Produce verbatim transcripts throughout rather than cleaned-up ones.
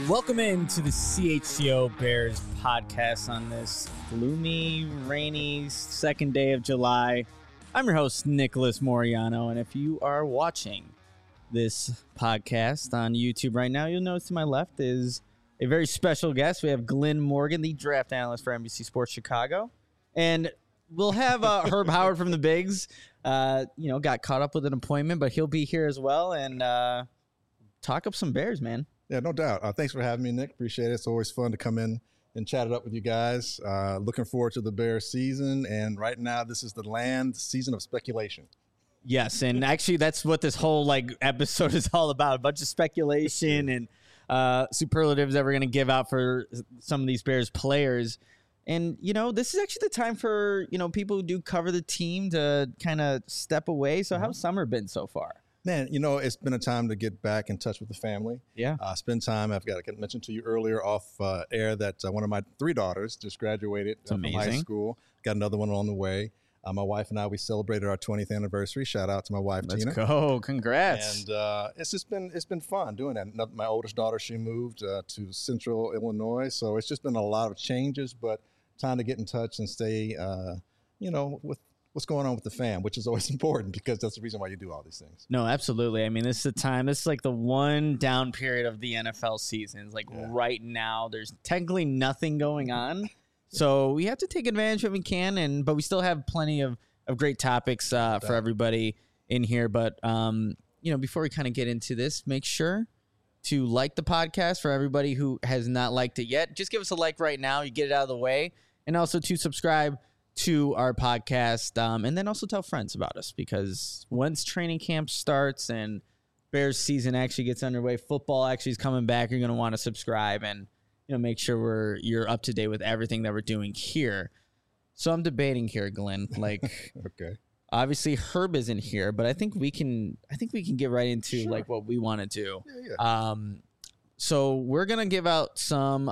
Welcome into the C H C O Bears podcast on this gloomy, rainy second day of July. I'm your host, Nicholas Moriano, and if you are watching this podcast on YouTube right now, you'll notice to my left is a very special guest. We have Glenn Morgan, the draft analyst for N B C Sports Chicago, and we'll have uh, Herb Howard from the Bigs. Uh, you know, got caught up with an appointment, but he'll be here as well and uh, talk up some Bears, man. Yeah, no doubt. Uh, thanks for having me, Nick. Appreciate it. It's always fun to come in and chat it up with you guys. Uh, looking forward to the Bears season. And right now, this is the land season of speculation. Yes, and actually that's what this whole like episode is all about. A bunch of speculation and uh, superlatives that we're going to give out for some of these Bears players. And, you know, this is actually the time for, you know, people who do cover the team to kind of step away. So how's summer been so far? Man, you know, it's been a time to get back in touch with the family. Yeah. Uh, spend time. I've got to mention to you earlier off uh, air that uh, one of my three daughters just graduated uh, from high school. Got another one on the way. Uh, my wife and I, we celebrated our twentieth anniversary. Shout out to my wife, Let's Tina. Let's go. Congrats. And uh, it's just been it's been fun doing that. My oldest daughter, she moved uh, to Central Illinois. So it's just been a lot of changes, but time to get in touch and stay, uh, you know, with what's going on with the fam, which is always important because that's the reason why you do all these things. No, absolutely. I mean, this is the time. This is like the one down period of the N F L season. It's like yeah. right now, there's technically nothing going on. So we have to take advantage of what we can, and but we still have plenty of, of great topics uh, for everybody in here. But, um, you know, before we kind of get into this, make sure to like the podcast for everybody who has not liked it yet. Just give us a like right now. You get it out of the way. And also to subscribe to our podcast, um, and then also tell friends about us, because once training camp starts and Bears season actually gets underway, football actually is coming back, you're going to want to subscribe and, you know, make sure we're you're up to date with everything that we're doing here. So I'm debating here, Glenn. Like, okay, obviously Herb isn't here, but I think we can. I think we can get right into sure. like what we want to do. Yeah, yeah. Um, so we're gonna give out some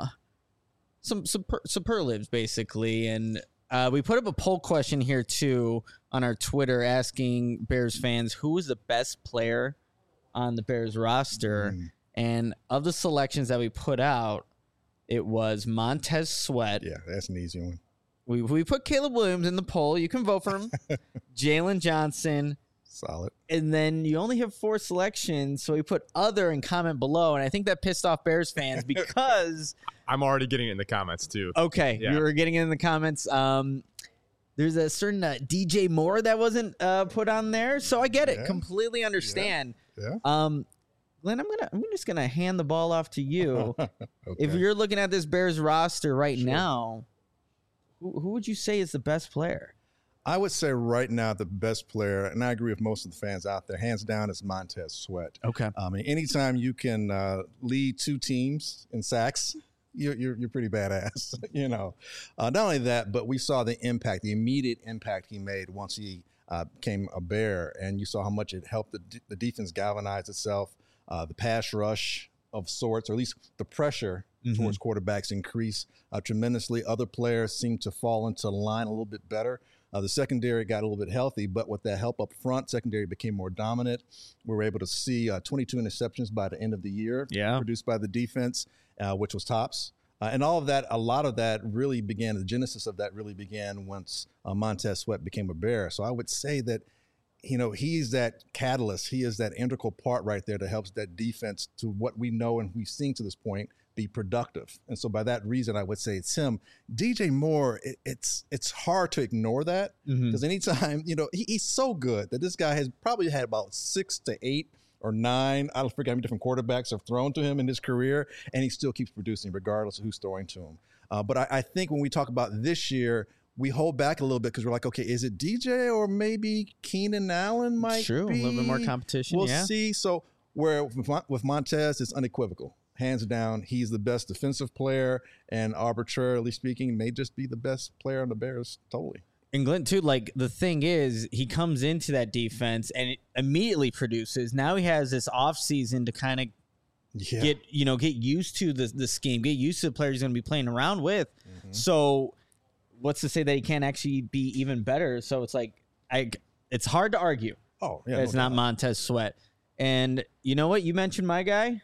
some super, superlatives basically, and. Uh, we put up a poll question here, too, on our Twitter asking Bears fans who was the best player on the Bears roster. Mm. And of the selections that we put out, it was Montez Sweat. Yeah, that's an easy one. We we put Caleb Williams in the poll. You can vote for him. Jalen Johnson. Solid. And then you only have four selections, so we put other and comment below. And I think that pissed off Bears fans because... I'm already getting it in the comments, too. Okay, yeah. You were getting it in the comments. Um, there's a certain uh, D J Moore that wasn't uh, put on there, so I get it. Yeah. Completely understand. Yeah. yeah. Um, Glenn, I'm gonna I'm just gonna hand the ball off to you. Okay. If you're looking at this Bears roster right sure. now, who, who would you say is the best player? I would say right now the best player, and I agree with most of the fans out there, hands down, is Montez Sweat. Okay. I mean, anytime you can uh, lead two teams in sacks, you're you're, you're pretty badass. you know, uh, not only that, but we saw the impact, the immediate impact he made once he uh, became a Bear, and you saw how much it helped the, the defense galvanize itself, uh, the pass rush of sorts, or at least the pressure mm-hmm. towards quarterbacks increase uh, tremendously. Other players seem to fall into line a little bit better. Uh, the secondary got a little bit healthy, but with that help up front, secondary became more dominant. We were able to see uh, twenty-two interceptions by the end of the year yeah. produced by the defense, uh, which was tops. Uh, and all of that, a lot of that really began, the genesis of that really began once uh, Montez Sweat became a Bear. So I would say that, you know, he's that catalyst. He is that integral part right there that helps that defense to what we know and we've seen to this point be productive. And so by that reason, I would say it's him. D J Moore, it, it's it's hard to ignore that because mm-hmm. anytime, you know, he, he's so good that this guy has probably had about six to eight or nine, I don't forget how many different quarterbacks have thrown to him in his career, and he still keeps producing regardless of who's throwing to him. Uh, but I, I think when we talk about this year, we hold back a little bit because we're like, okay, is it D J or maybe Keenan Allen might True, be? a little bit more competition, We'll yeah. see. So where with, with Montez, it's unequivocal. Hands down, he's the best defensive player, and arbitrarily speaking, may just be the best player on the Bears totally. And Glenn, too, like the thing is, he comes into that defense and it immediately produces. Now he has this offseason to kind of yeah. get, you know, get used to the, the scheme, get used to the players he's going to be playing around with. Mm-hmm. So what's to say that he can't actually be even better? So it's like, I, it's hard to argue. Oh, yeah. It's no not doubt. Montez Sweat. And you know what? You mentioned my guy, mm-hmm.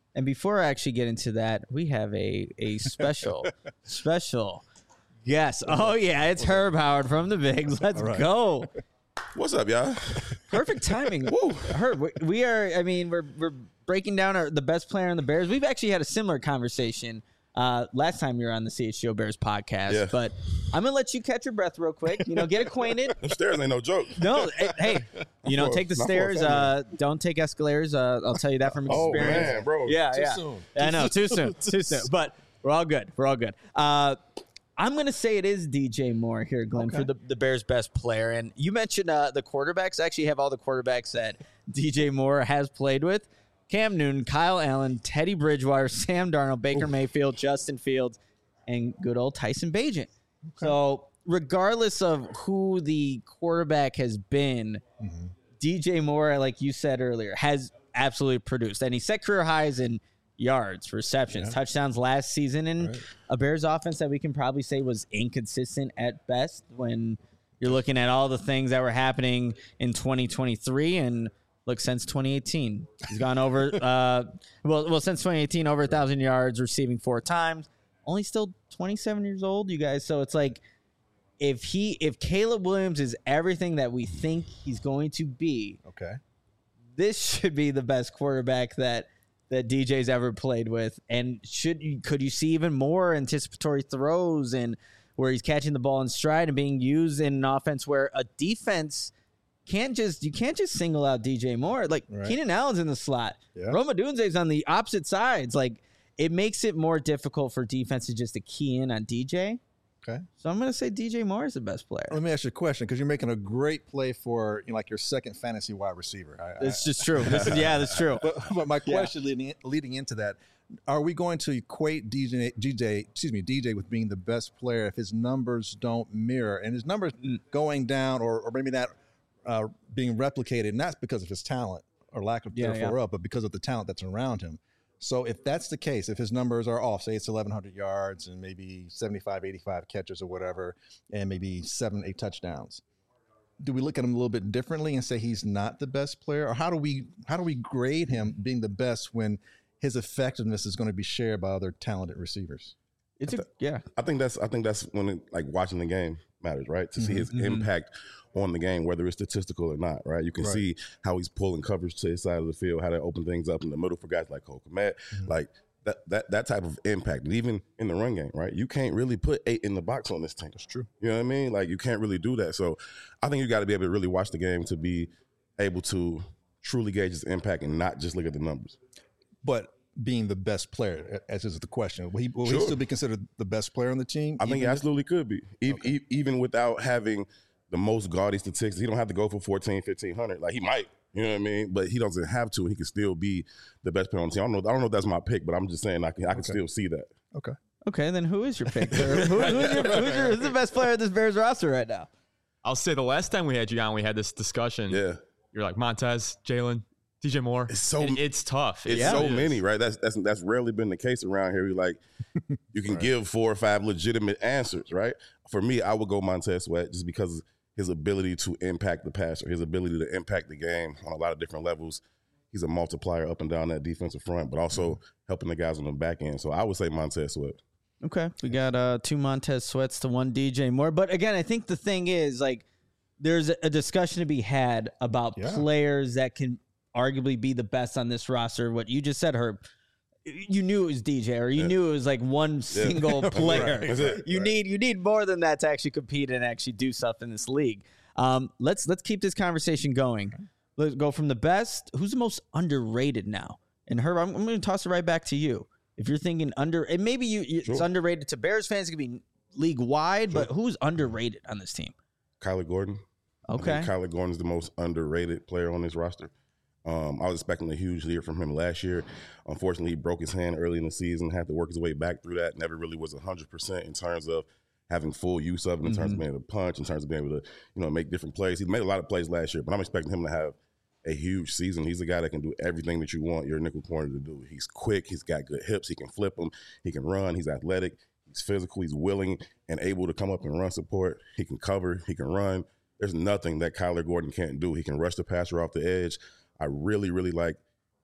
And before I actually get into that, we have a a special, special yes. Oh, yeah, it's Herb Howard from the Bigs. Let's right. go. What's up, y'all? Perfect timing. Woo. Herb, we, we are, I mean, we're we're breaking down our, the best player on the Bears. We've actually had a similar conversation uh, last time you were on the C H G O Bears podcast. Yeah. But I'm going to let you catch your breath real quick. You know, get acquainted. Them stairs ain't no joke. No, hey, you know, take the stairs. Uh, don't take escalators. Uh, I'll tell you that from experience. Oh, man, bro. Yeah, too yeah. Soon. I know, too soon. Too soon. But we're all good. We're all good. Uh, I'm going to say it is D J Moore here, Glenn, okay. for the, the Bears' best player. And you mentioned uh, the quarterbacks. I actually have all the quarterbacks that D J Moore has played with. Cam Newton, Kyle Allen, Teddy Bridgewater, Sam Darnold, Baker Oof. Mayfield, Justin Fields, and good old Tyson Bagent. Okay. So regardless of who the quarterback has been, mm-hmm. D J Moore, like you said earlier, has absolutely produced. And he set career highs in yards, receptions, yeah. touchdowns last season, and right. a Bears offense that we can probably say was inconsistent at best when you're looking at all the things that were happening in twenty twenty-three. And look, since twenty eighteen, he's gone over, uh, well, well, since twenty eighteen, over a thousand yards, receiving four times, only still twenty-seven years old, you guys. So it's like, if he, if Caleb Williams is everything that we think he's going to be, okay, this should be the best quarterback that that D J's ever played with. And should you, could you see even more anticipatory throws and where he's catching the ball in stride and being used in an offense where a defense can't just, you can't just single out D J Moore. Like right. Keenan Allen's in the slot. Yeah. Rome Odunze's on the opposite sides. Like it makes it more difficult for defenses just to key in on D J. Okay. So I'm going to say D J Moore is the best player. Let me ask you a question, because you're making a great play for, you know, like your second fantasy wide receiver. I, it's I, just true. This is, yeah, that's true. But, but my question yeah. leading, leading into that, are we going to equate D J, D J, excuse me, D J with being the best player if his numbers don't mirror, and his numbers going down, or, or maybe not uh, being replicated, not because of his talent or lack of yeah, therefore yeah. up, but because of the talent that's around him? So if that's the case, if his numbers are off, say it's eleven hundred yards and maybe seventy-five, eighty-five catches or whatever, and maybe seven, eight touchdowns, do we look at him a little bit differently and say he's not the best player? Or how do we how do we grade him being the best when his effectiveness is going to be shared by other talented receivers? It's a, yeah. I think that's I think that's when it, like watching the game matters, right? To mm-hmm, see his mm-hmm. impact on the game, whether it's statistical or not, right? You can right. see how he's pulling coverage to his side of the field, how they open things up in the middle for guys like Cole Kmet, mm-hmm. like that that that type of impact. And even in the run game, right? You can't really put eight in the box on this team. That's true. You know what I mean? Like you can't really do that. So I think you got to be able to really watch the game to be able to truly gauge his impact and not just look at the numbers. But being the best player, as is the question, will he, will sure. he still be considered the best player on the team? I think he absolutely could be, e- okay. e- even without having the most gaudy statistics. He don't have to go for fourteen, fifteen hundred. Like he might, you know what I mean? But he doesn't have to. He can still be the best player on the team. I don't know. I don't know if that's my pick, but I'm just saying I can. I can okay. still see that. Okay. Okay. Then who is your pick? who, who's, your, who's, your, who's the best player of this Bears roster right now? I'll say the last time we had you on, we had this discussion. Yeah. You're like Montez, Jalen, D J Moore. It's so it, it's tough. It's yeah, so it many, right? That's that's that's rarely been the case around here. We like you can right. give four or five legitimate answers, right? For me, I would go Montez Sweat just because his ability to impact the passer, his ability to impact the game on a lot of different levels. He's a multiplier up and down that defensive front, but also helping the guys on the back end. So I would say Montez Sweat. Okay, we got uh, two Montez Sweats to one D J Moore. But again, I think the thing is, like, there's a discussion to be had about yeah. players that can arguably be the best on this roster. What you just said, Herb, you knew it was D J, or you yeah. knew it was like one single yeah. player. Right. That's it. You right. need you need more than that to actually compete and actually do stuff in this league. Um, let's let's keep this conversation going. Let's go from the best. Who's the most underrated now? And Herb, I'm, I'm going to toss it right back to you. If you're thinking under, and maybe you it's sure. underrated to Bears fans, it could be league wide, sure. but who's underrated on this team? Kyler Gordon. Okay, Kyler Gordon is the most underrated player on this roster. Um, I was expecting a huge year from him last year. Unfortunately, he broke his hand early in the season, had to work his way back through that. Never really was one hundred percent in terms of having full use of it, in mm-hmm. terms of being able to punch, in terms of being able to, you know, make different plays. He made a lot of plays last year, but I'm expecting him to have a huge season. He's a guy that can do everything that you want your nickel corner to do. He's quick. He's got good hips. He can flip them. He can run. He's athletic. He's physical. He's willing and able to come up and run support. He can cover. He can run. There's nothing that Kyler Gordon can't do. He can rush the passer off the edge. I really, really like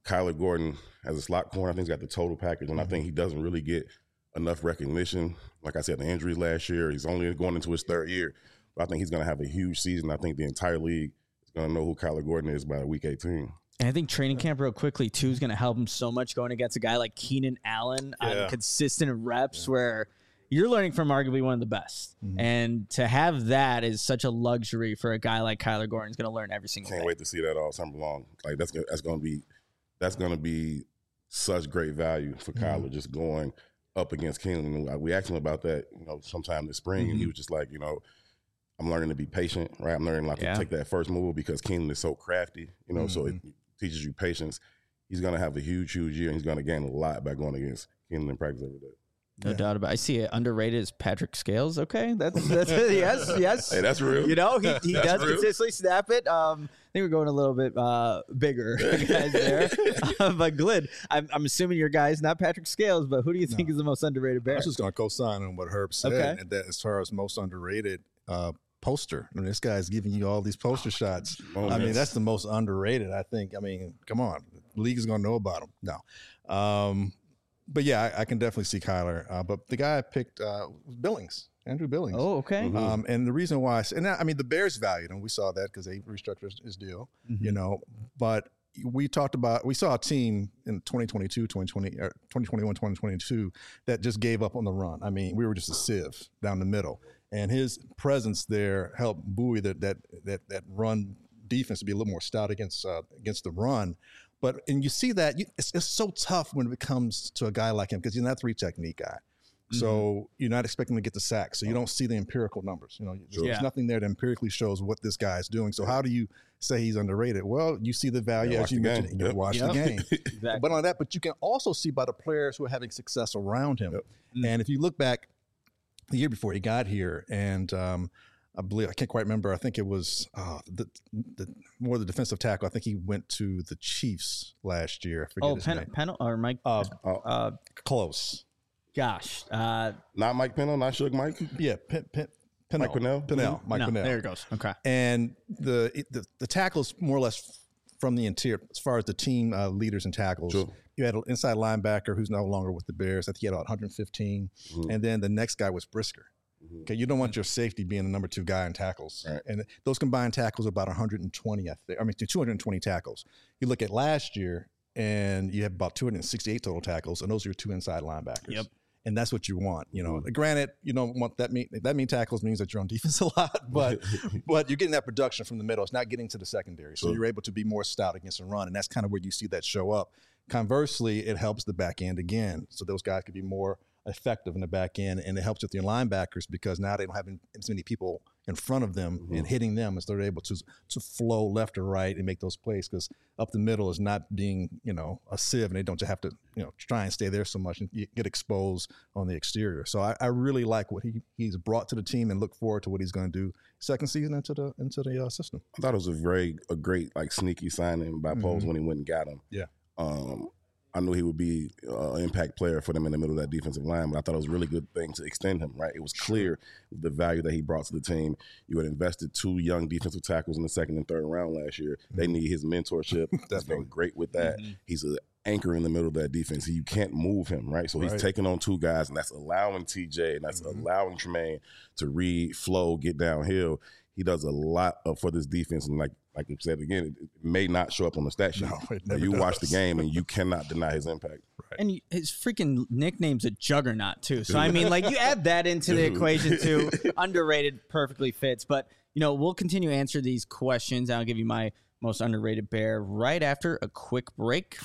Kyler Gordon as a slot corner, I think he's got the total package, and mm-hmm. I think he doesn't really get enough recognition. Like I said, the injuries last year, he's only going into his third year. But I think he's going to have a huge season. I think the entire league is going to know who Kyler Gordon is by week eighteen. And I think training camp real quickly, too, is going to help him so much going against a guy like Keenan Allen yeah. on consistent reps yeah. where you're learning from arguably one of the best. Mm-hmm. And to have that is such a luxury for a guy like Kyler Gordon. He's going to learn every single Can't day. Can't wait to see that all summer long. Like that's that's going to be that's going to be such great value for mm-hmm. Kyler just going up against Keenan. And we asked him about that, you know, sometime this spring, mm-hmm. and he was just like, you know, I'm learning to be patient, right? I'm learning not yeah. to take that first move because Keenan is so crafty, you know, mm-hmm. so it teaches you patience. He's going to have a huge, huge year, and he's going to gain a lot by going against Keenan in practice every day. No yeah. doubt about it. I see it underrated as Patrick Scales. Okay, that's that's yes, yes. Hey, that's real. You know, he he does real. consistently snap it. Um, I think we're going a little bit uh, bigger guys there. uh, but Glid, I'm I'm assuming your guy is not Patrick Scales, but who do you think no. is the most underrated Bear? I was just going to co-sign on what Herb said. Okay. And that as far as most underrated uh, poster, I mean, this guy's giving you all these poster shots. Oh, I mean, that's the most underrated. I think. I mean, come on, the league is going to know about him. No. Um, But yeah, I, I can definitely see Kyler. Uh, but the guy I picked uh, was Billings, Andrew Billings. Oh, okay. Mm-hmm. Um, and the reason why, I, and I mean, the Bears valued him. We saw that because they restructured his deal, mm-hmm. you know. But we talked about, we saw a team in twenty twenty-two, twenty twenty, or twenty twenty-one, twenty twenty-two that just gave up on the run. I mean, we were just a sieve down the middle, and his presence there helped buoy that that that that run defense to be a little more stout against uh, against the run. But, and you see that, you, it's, it's so tough when it comes to a guy like him because he's not a three-technique guy. Mm-hmm. So you're not expecting him to get the sack. So you don't see the empirical numbers. You know, there's, yeah. there's nothing there that empirically shows what this guy is doing. So how do you say he's underrated? Well, you see the value, yeah, as you mentioned. Game. You yep. watch yep. the game. Exactly. But on that, but you can also see by the players who are having success around him. Yep. Mm-hmm. And if you look back the year before he got here, and um, I believe, I can't quite remember. I think it was uh, the, the more the defensive tackle. I think he went to the Chiefs last year. I forget oh, his Pen- name. Pennell or Mike? Uh, uh, close. Gosh. Uh, not Mike Pennell, not Suge Mike? Yeah, Pen, Pen, Pennell. Mike Pennell? Pennell. Mm-hmm. Mike no, Pennell. There it goes. Okay. And the, the, the tackles more or less from the interior, as far as the team uh, leaders and tackles. Sure. You had an inside linebacker who's no longer with the Bears. I think he had about one hundred fifteen. Mm-hmm. And then the next guy was Brisker. Okay, you don't want your safety being the number two guy in tackles. Right. And those combined tackles are about one hundred twenty, I think. I mean, two hundred twenty tackles. You look at last year, and you have about two hundred sixty-eight total tackles, and those are your two inside linebackers. Yep. And that's what you want. You know, Mm-hmm. granted, you don't want that mean that mean tackles means that you're on defense a lot, but but you're getting that production from the middle. It's not getting to the secondary. So Sure. you're able to be more stout against a run, and that's kind of where you see that show up. Conversely, it helps the back end again. So those guys could be more effective in the back end, and it helps with your linebackers because now they don't have as many people in front of them Mm-hmm. and hitting them, and so they're able to to flow left or right and make those plays because up the middle is not being, you know, a sieve, and they don't just have to, you know, try and stay there so much and you get exposed on the exterior. So I, I really like what he he's brought to the team and look forward to what he's going to do second season into the into the uh, system. I thought it was a very a great like sneaky signing by Poles Mhm. when he went and got him. Yeah. Um, I knew he would be uh, an impact player for them in the middle of that defensive line, but I thought it was a really good thing to extend him, right? It was clear the value that he brought to the team. You had invested two young defensive tackles in the second and third round last year. Mm-hmm. They need his mentorship. He's been great with that. Mm-hmm. He's an anchor in the middle of that defense. You can't move him, right? So he's right. taking on two guys, and that's allowing T J and that's mm-hmm. allowing Tremaine to read, flow, get downhill. He does a lot of, for this defense, and like like you said again, it, it may not show up on the stat sheet. No, it but never you does. watch the game, and you cannot deny his impact. Right. And his freaking nickname's a juggernaut, too. So, I mean, like, you add that into the equation, too. Underrated perfectly fits. But, you know, we'll continue to answer these questions. I'll give you my most underrated Bear right after a quick break.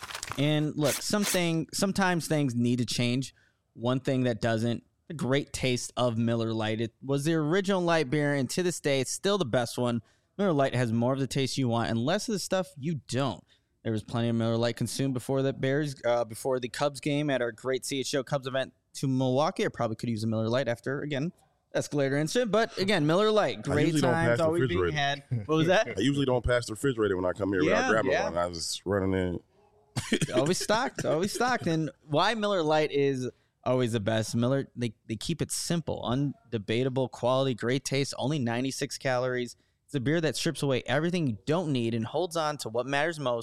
And, look, something sometimes things need to change. One thing that doesn't, the great taste of Miller Lite. It was the original light beer, and to this day, it's still the best one. Miller Lite has more of the taste you want and less of the stuff you don't. There was plenty of Miller Lite consumed before the Bears, uh, before the Cubs game at our great C H O Cubs event to Milwaukee. I probably could use a Miller Lite after, again, escalator incident. But, again, Miller Lite, great usually don't pass times, the always being refrigerator. had. What was that? I usually don't pass the refrigerator when I come here Yeah, without grabbing yeah. one. I was just running in. always stocked, always stocked. And why Miller Lite is always the best. Miller, they, they keep it simple, undebatable quality, great taste, only ninety-six calories. It's a beer that strips away everything you don't need and holds on to what matters most,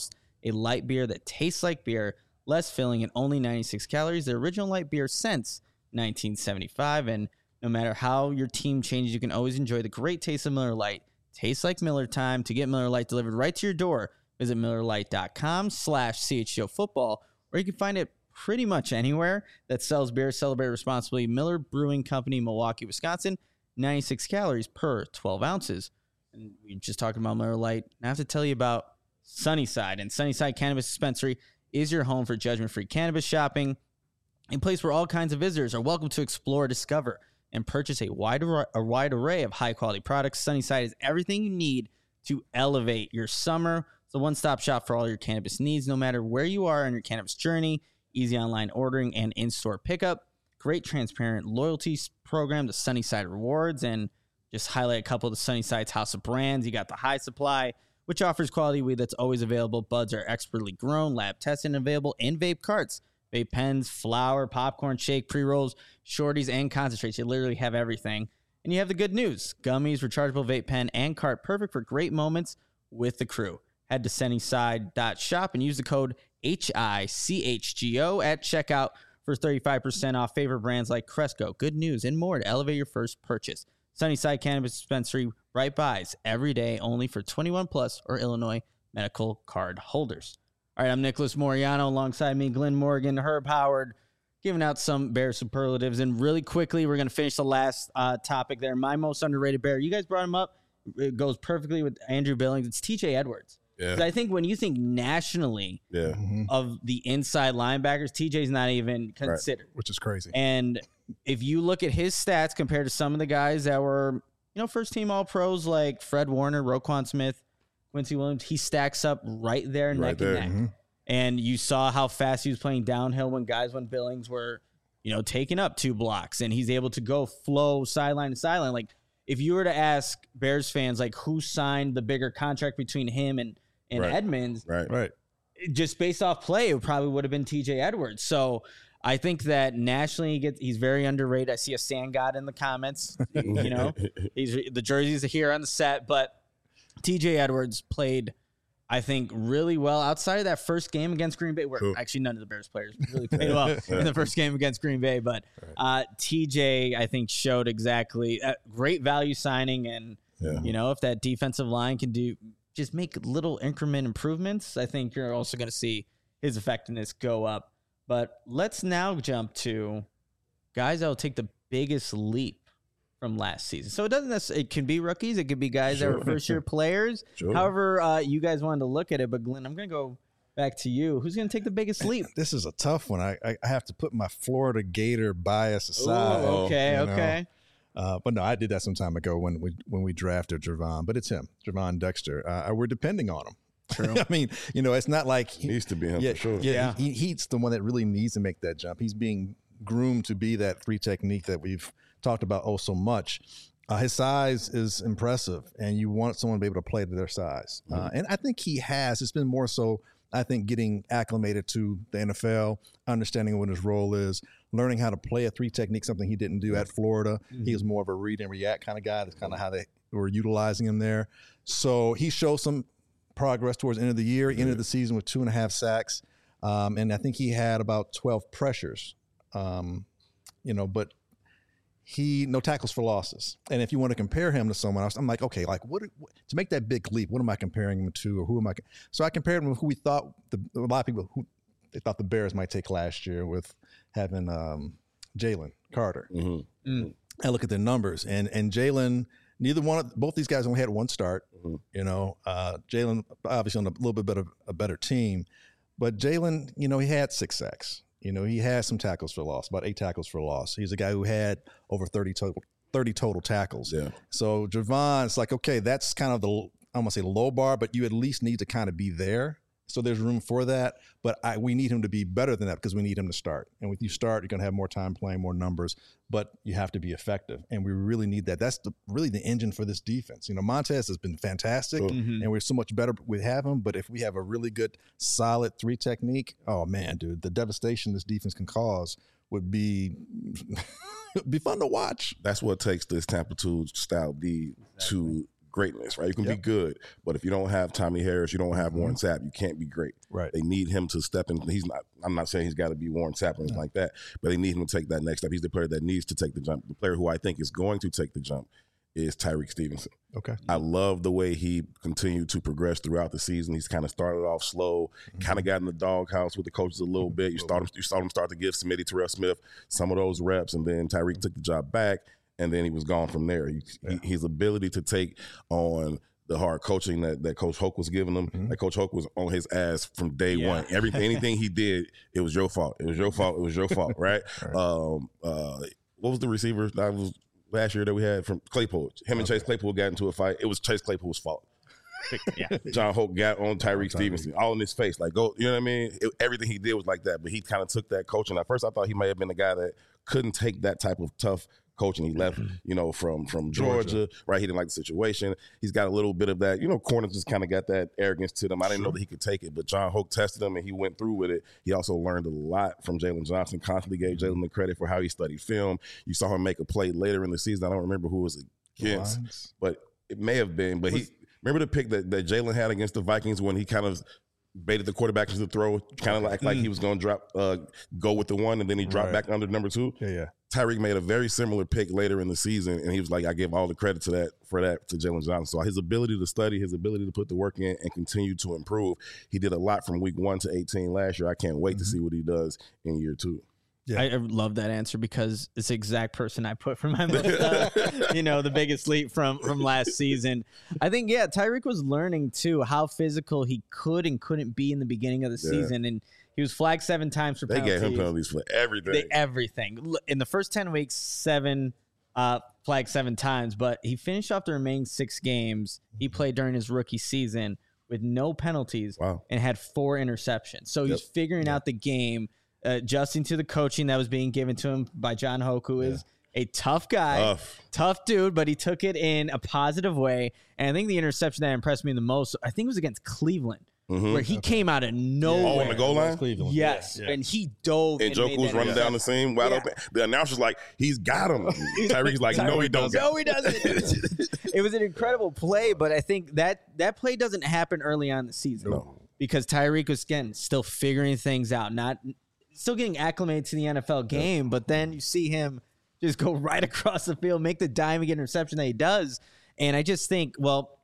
a light beer that tastes like beer, less filling, and only ninety-six calories. The original light beer since nineteen seventy-five. And no matter how your team changes, you can always enjoy the great taste of Miller Lite. Tastes like Miller time. To get Miller Lite delivered right to your door, visit MillerLite.com slash CHGO football, or you can find it pretty much anywhere that sells beer. Celebrate responsibly. Miller Brewing Company, Milwaukee, Wisconsin. ninety-six calories per twelve ounces. And we just talking about Miller Lite. I have to tell you about Sunnyside. And Sunnyside Cannabis Dispensary is your home for judgment-free cannabis shopping, a place where all kinds of visitors are welcome to explore, discover, and purchase a wide, a wide array of high-quality products. Sunnyside is everything you need to elevate your summer. It's a one-stop shop for all your cannabis needs, no matter where you are on your cannabis journey. Easy online ordering and in-store pickup. Great transparent loyalty program, the Sunnyside Rewards, and just highlight a couple of the Sunnyside's house of brands. You got the High Supply, which offers quality weed that's always available. Buds are expertly grown, lab tested, and available in vape carts. Vape pens, flour, popcorn, shake, pre-rolls, shorties, and concentrates. You literally have everything. And you have the good news. Gummies, rechargeable vape pen, and cart. Perfect for great moments with the crew. Head to Sunnyside dot shop and use the code H I C H G O at checkout for thirty-five percent off favorite brands like Cresco, Good News, and more to elevate your first purchase. Sunnyside Cannabis Dispensary, right buys every day, only for twenty-one plus or Illinois medical card holders. All right, I'm Nicholas Moriano, alongside me, Glenn Morgan, Herb Howard, giving out some Bear superlatives. And really quickly, we're going to finish the last uh, topic there. My most underrated Bear. You guys brought him up. It goes perfectly with Andrew Billings. It's T J Edwards. Yeah. I think when you think nationally Yeah. of the inside linebackers, T J's not even considered. Which is crazy. And if you look at his stats compared to some of the guys that were, you know, first team all pros like Fred Warner, Roquan Smith, Quincy Williams, he stacks up right there, Right neck there. and neck. Mm-hmm. And you saw how fast he was playing downhill when guys, when Billings were, you know, taking up two blocks, and he's able to go flow sideline to sideline. Like, if you were to ask Bears fans, like, who signed the bigger contract between him and, and Right. Edmonds, Right. Right. just based off play, it probably would have been T J Edwards. So I think that nationally he gets, he's very underrated. I see a Sand God in the comments. You know, he's the jerseys are here on the set, but T J Edwards played, I think, really well outside of that first game against Green Bay, where Cool. actually none of the Bears players really played well in the first game against Green Bay. But uh, T J, I think, showed exactly a great value signing. And, Yeah. you know, if that defensive line can do just make little increment improvements, I think you're also going to see his effectiveness go up. But let's now jump to guys that will take the biggest leap from last season. So it doesn't necessarily, it can be rookies. It could be guys that Sure. were first year players. Sure. However, uh, you guys wanted to look at it. But Glenn, I'm going to go back to you. Who's going to take the biggest leap? This is a tough one. I, I I have to put my Florida Gator bias aside. Ooh, okay, you know. okay. Uh, but no, I did that some time ago when we when we drafted Javon. But it's him, Javon Dexter. Uh, we're depending on him. True. I mean, you know, it's not like he, Needs to be him yeah, for sure. Yeah, Yeah. He, he's the one that really needs to make that jump. He's being groomed to be that free technique that we've talked about oh so much. Uh, his size is impressive, and you want someone to be able to play to their size. Uh, and I think he has. It's been more so, I think, getting acclimated to the N F L, understanding what his role is, learning how to play a three technique, something he didn't do at Florida. He was more of a read and react kind of guy. That's kind of how they were utilizing him there. So he showed some progress towards the end of the year. He ended the season with two and a half sacks. Um, and I think he had about twelve pressures, um, you know, but he, no tackles for losses. And if you want to compare him to someone else, I'm like, okay, like what, what to make that big leap, what am I comparing him to, or who am I? So I compared him with who we thought, the, a lot of people who they thought the Bears might take last year with having um, Jalen Carter. Mm-hmm. Mm. I look at the numbers, and and Jalen, neither one of both these guys only had one start. Mhm. You know, uh, Jalen obviously on a little bit better a better team, but Jalen, you know, he had six sacks. You know, he had some tackles for loss, about eight tackles for loss. He's a guy who had over thirty total thirty total tackles. Yeah. So Javon, it's like, okay, that's kind of the, I don't want to say low bar, but you at least need to kind of be there. So there's room for that. But I, we need him to be better than that because we need him to start. And with you start, you're going to have more time playing, more numbers, but you have to be effective. And we really need that. That's the, really the engine for this defense. You know, Montez has been fantastic, Sure. Mhm. and we're so much better with having him. But if we have a really good, solid three technique, oh, man, dude, the devastation this defense can cause would be be fun to watch. That's what takes this Tampa two style D to greatness, right? You can Yep. be good, but if you don't have Tommy Harris, you don't have Mm-hmm. Warren Sapp, you can't be great. Right. They need him to step in. He's not. I'm not saying he's got to be Warren Sapp or anything No. like that, but they need him to take that next step. He's the player that needs to take the jump. The player who I think is going to take the jump is Tyreek Stevenson. Okay. I love the way he continued to progress throughout the season. He's kind of started off slow, kind of got in the doghouse with the coaches a little bit. You start him, you saw him start to give Smitty Terrell Smith some of those reps, and then Tyreek took the job back, and then he was gone from there. He, Yeah. he, his ability to take on the hard coaching that, that Coach Hoke was giving him, Mhm. that Coach Hoke was on his ass from day Yeah. one. Everything, anything he did, it was your fault. It was your fault. It was your fault, right? Right. Um, uh, what was the receiver that was last year that we had from Claypool? Him and Okay. Chase Claypool got into a fight. It was Chase Claypool's fault. Yeah. John Hope got on Tyreek Tyreek. Stevenson, all in his face. Like, go, you know what I mean? It, everything he did was like that, but he kind of took that coaching. At first, I thought he may have been the guy that couldn't take that type of tough coaching. He left, you know, from from Georgia, Georgia. right? He didn't like the situation. He's got a little bit of that, you know, corners just kind of got that arrogance to them. I didn't know that he could take it, but John Hoke tested him and he went through with it. He also learned a lot from Jalen Johnson, constantly gave Jalen the credit for how he studied film. You saw him make a play later in the season. I don't remember who it was against, Lions. but it may have been. But he remember the pick that, that Jalen had against the Vikings when he kind of baited the quarterback into the throw, kind of like like he was going to drop, uh, go with the one, and then he dropped Right. back under number two. Yeah, yeah. Tyreek made a very similar pick later in the season, and he was like, I give all the credit to that for that to Jalen Johnson. So his ability to study, his ability to put the work in and continue to improve. He did a lot from week one to eighteen last year. I can't wait Mm-hmm. to see what he does in year two. Yeah. I, I love that answer because it's the exact person I put for my most, uh, you know, the biggest leap from from last season. I think, yeah, Tyreek was learning too how physical he could and couldn't be in the beginning of the Yeah. season, and he was flagged seven times for They penalties. gave him penalties for everything. They- everything L- in the first ten weeks, seven uh, flagged seven times, but he finished off the remaining six games he played during his rookie season with no penalties Wow. and had four interceptions. So he's Yep. figuring out the game, uh, adjusting to the coaching that was being given to him by John Hoke, who is a tough guy, Tough. tough dude, but he took it in a positive way. And I think the interception that impressed me the most, I think it was against Cleveland, Mhm. where he came out of nowhere. Oh, on the goal line? Cleveland. Yes, Yeah. and he dove. And and Joku made was that running down the interception. seam wide Yeah. open. The announcer's like, he's got him. Tyreek's like, no, he don't got No, him. he doesn't. It was an incredible play, but I think that that play doesn't happen early on in the season No. because Tyreek was again still figuring things out, not still getting acclimated to the N F L game. But then you see him just go right across the field, make the diving interception that he does, and I just think, well,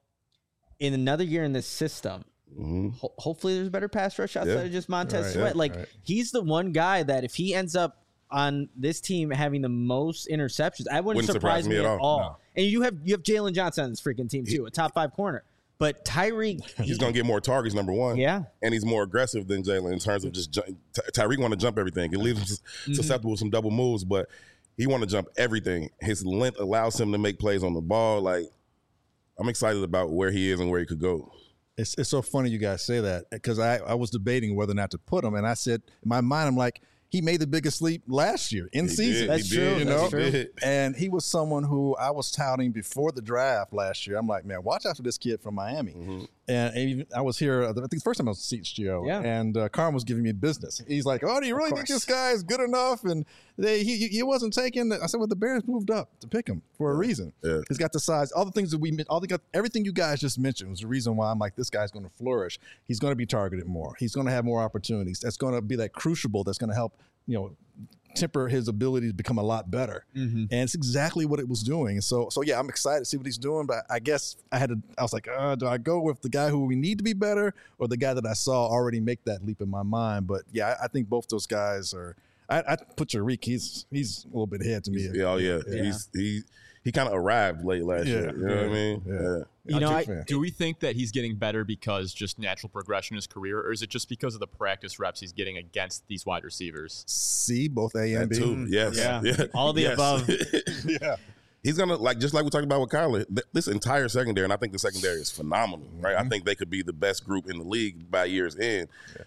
in another year in this system, Mhm. ho- hopefully there's better pass rush outside Yeah. of just Montez Right, Sweat. yeah, Like right. he's the one guy that if he ends up on this team having the most interceptions, I wouldn't, Wouldn't surprise me me at at all. all. No. And you have you have Jalen Johnson on this freaking team too, a top five corner. But Tyreek, He's going to get more targets, number one. yeah, And he's more aggressive than Jalen in terms of just ju- Ty- Tyreek want to jump everything. It leaves him sus- Mm-hmm. susceptible to some double moves, but he want to jump everything. His length allows him to make plays on the ball. Like, I'm excited about where he is and where he could go. It's it's so funny you guys say that because I, I was debating whether or not to put him, and I said in my mind I'm like he made the biggest leap last year in He season. did, That's he true, did, You that's know, true. He did. and he was someone who I was touting before the draft last year. I'm like, man, watch out for this kid from Miami. Mhm. And even, I was here, I think the first time I was at C H G O, Yeah. and uh, Carm was giving me business. He's like, oh, do you really think course. this guy is good enough? And they, he, he wasn't taken. I said, well, the Bears moved up to pick him for a reason. Yeah. He's got the size. All the things that we, all the everything you guys just mentioned was the reason why I'm like, this guy's going to flourish. He's going to be targeted more. He's going to have more opportunities. That's going to be that crucible that's going to help, you know, temper his ability to become a lot better. Mhm. And it's exactly what it was doing. So, so yeah, I'm excited to see what he's doing. But I guess I had to. I was like, uh, do I go with the guy who we need to be better, or the guy that I saw already make that leap in my mind? But yeah, I, I think both those guys are. I, I put Tariq. He's he's a little bit ahead to me. Yeah, oh, yeah. Yeah. He's, he he kind of arrived late last Yeah, year. You know what I yeah, mean? yeah. You I'm know, a I, big fan. Do we think that he's getting better because just natural progression in his career, or is it just because of the practice reps he's getting against these wide receivers? C, both A and That B. too. Yes. Yeah. Yeah. All the Yes. above. Yeah. He's gonna like just like we talked about with Kyler. Th- this entire secondary, and I think the secondary is phenomenal, right? Mm-hmm. I think they could be the best group in the league by year's end,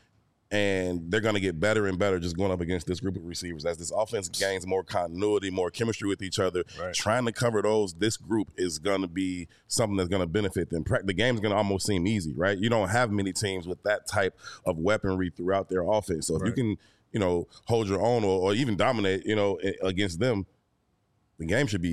and they're gonna get better and better just going up against this group of receivers as this offense gains more continuity, more chemistry with each other. Right. Trying to cover those, this group is gonna be something that's gonna benefit them. Pra- The game's gonna almost seem easy, right? You don't have many teams with that type of weaponry throughout their offense. So if you Right. can, you know, hold your own or, or even dominate, you know, a- against them, the game should be easy.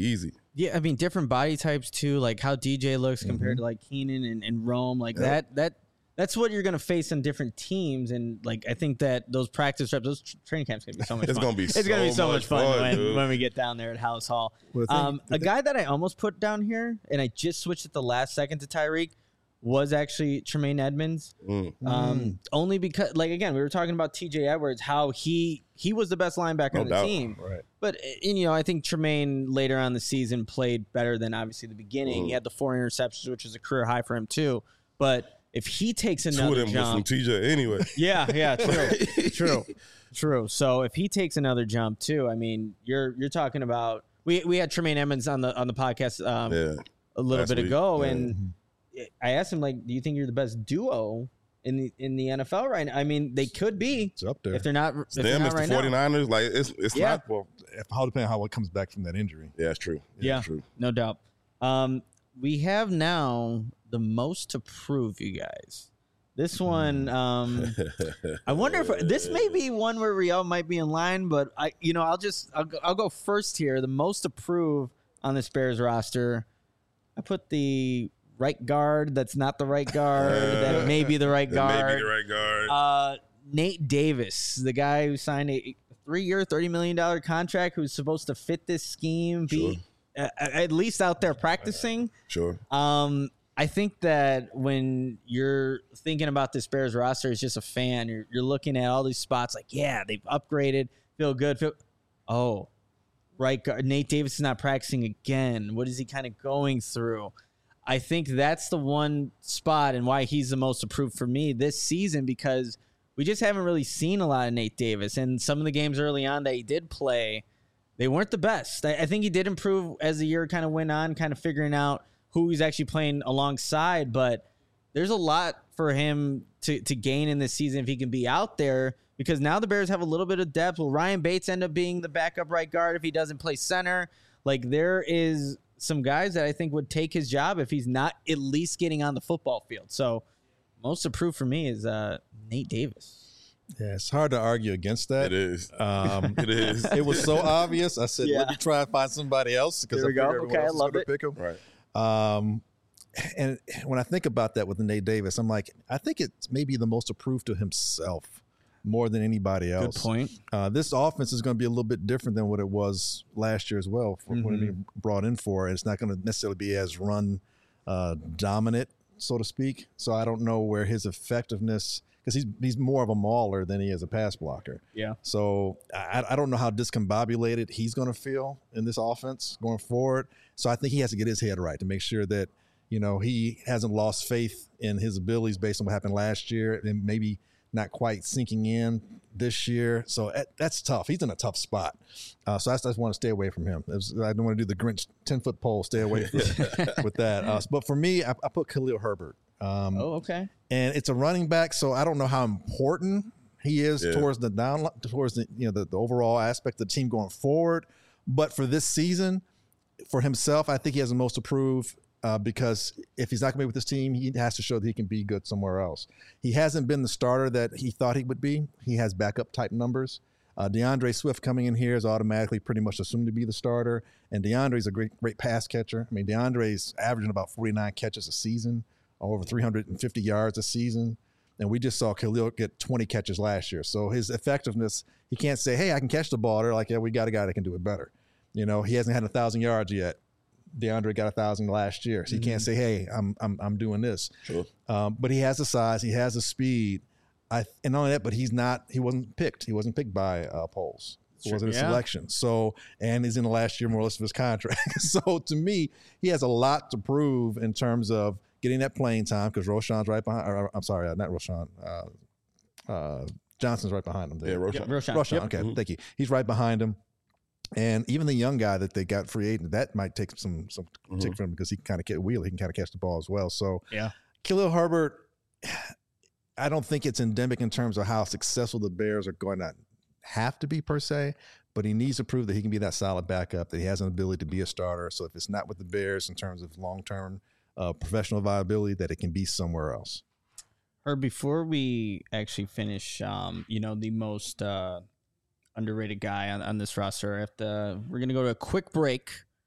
Yeah, I mean, different body types too, like how D J looks compared Mm-hmm. to like Keenan and, and Rome, like Yep. that. That that's what you're gonna face on different teams, and like I think that those practice reps, those tr- training camps, gonna be so much. It's fun. gonna be it's gonna be so so much much fun, fun, when, dude. when we get down there at House Hall. Well, the thing- um, the a thing- guy that I almost put down here, and I just switched at the last second to Tyreek, was actually Tremaine Edmonds. Mm. Um, only because, like again, we were talking about T J Edwards, how he he was the best linebacker No on the doubt. team. Right. But and, you know, I think Tremaine later on in the season played better than obviously the beginning. Mm. He had the four interceptions, which is a career high for him too. But if he takes Two of another them was from jump, T J anyway. yeah, yeah, true, true, true. So if he takes another jump too, I mean, you're you're talking about we we had Tremaine Edmonds on the on the podcast um, Yeah. a little last bit week, ago, yeah. and I asked him like, do you think you're the best duo in the in the N F L right now? I mean, they could be It's up there. if they're not. If they're Them not is right the now. 49ers. Like it's it's Yeah. not. well, if, how depending on how it comes back from that injury. Yeah, it's true. Yeah. it's true. No doubt. Um, we have now the most to prove, you guys. This one, um, I wonder if this may be one where Riel might be in line, but I, you know, I'll just I'll go, I'll go first here. The most to prove on this Bears roster, I put the right guard. That's not the right guard. that may be the right That guard. may be the right guard. Uh, Nate Davis, the guy who signed a three-year, thirty million dollars contract, who's supposed to fit this scheme, be uh, at least out there practicing. sure. Um, I think that when you're thinking about this Bears roster as just a fan, you're, you're looking at all these spots like, yeah, they've upgraded, feel good. Feel, oh, right guard. Nate Davis is not practicing again. What is he kind of going through? I think that's the one spot and why he's the most approved for me this season, because we just haven't really seen a lot of Nate Davis. And some of the games early on that he did play, they weren't the best. I, I think he did improve as the year kind of went on, kind of figuring out who he's actually playing alongside. But there's a lot for him to, to gain in this season if he can be out there, because now the Bears have a little bit of depth. Will Ryan Bates end up being the backup right guard if he doesn't play center? Like, there is some guys that I think would take his job if he's not at least getting on the football field. So most approved for me is uh, Nate Davis. Yeah, it's hard to argue against that. It is. Um, It is. It was so obvious. I said, Yeah. let me try and find somebody else because There I we go. figured everyone Okay, I else was love going it. to pick him. Right. Um, and when I think about that with Nate Davis, I'm like, I think it's maybe the most approved to himself more than anybody else. Good point. Uh, this offense is going to be a little bit different than what it was last year as well, for what Mm-hmm. it being brought in for. And it's not going to necessarily be as run uh, dominant, so to speak. So I don't know where his effectiveness, because he's he's more of a mauler than he is a pass blocker. Yeah. So I, I don't know how discombobulated he's going to feel in this offense going forward. So I think he has to get his head right to make sure that, you know, he hasn't lost faith in his abilities based on what happened last year and maybe not quite sinking in this year. So that, that's tough. He's in a tough spot. Uh, so I just want to stay away from him. It was, I don't want to do the Grinch ten-foot pole. Stay away from, with that. Uh, but for me, I, I put Khalil Herbert. Um, Oh, okay. and it's a running back, so I don't know how important he is Yeah. towards the down, towards the you know the, the overall aspect of the team going forward. But for this season, for himself, I think he has the most to prove uh, because if he's not going to be with this team, he has to show that he can be good somewhere else. He hasn't been the starter that he thought he would be. He has backup type numbers. Uh, DeAndre Swift coming in here is automatically pretty much assumed to be the starter, and DeAndre's a great great pass catcher. I mean, DeAndre's averaging about forty-nine catches a season, over three hundred fifty yards a season. And we just saw Khalil get twenty catches last year. So his effectiveness, he can't say, hey, I can catch the ball. They're like, yeah, we got a guy that can do it better. You know, he hasn't had a thousand yards yet. DeAndre got a thousand last year. So he can't say, hey, I'm I'm I'm doing this. Sure. Um, but he has the size, he has the speed. I and not only that, but he's not, he wasn't picked. He wasn't picked by uh, polls. It wasn't a Yeah. selection. So, and he's in the last year more or less of his contract. So to me, he has a lot to prove in terms of getting that playing time because Roschon's right behind. Or, I'm sorry, uh, not Roschon. Uh, uh, Johnson's right behind him. Yeah, There. Roshan. Roshan. Roschon. Yep. Okay, Mhm. thank you. He's right behind him. And even the young guy that they got free agent, that might take some some Mhm. tick from him because he can kind of get wheel. He can kind of catch the ball as well. So Yeah. Khalil Herbert, I don't think it's endemic in terms of how successful the Bears are going to have to be per se, but he needs to prove that he can be that solid backup, that he has an ability to be a starter. So if it's not with the Bears in terms of long-term uh, professional viability, that it can be somewhere else. Or before we actually finish, um, you know, the most uh, underrated guy on, on this roster, I have to, we're going to go to a quick break.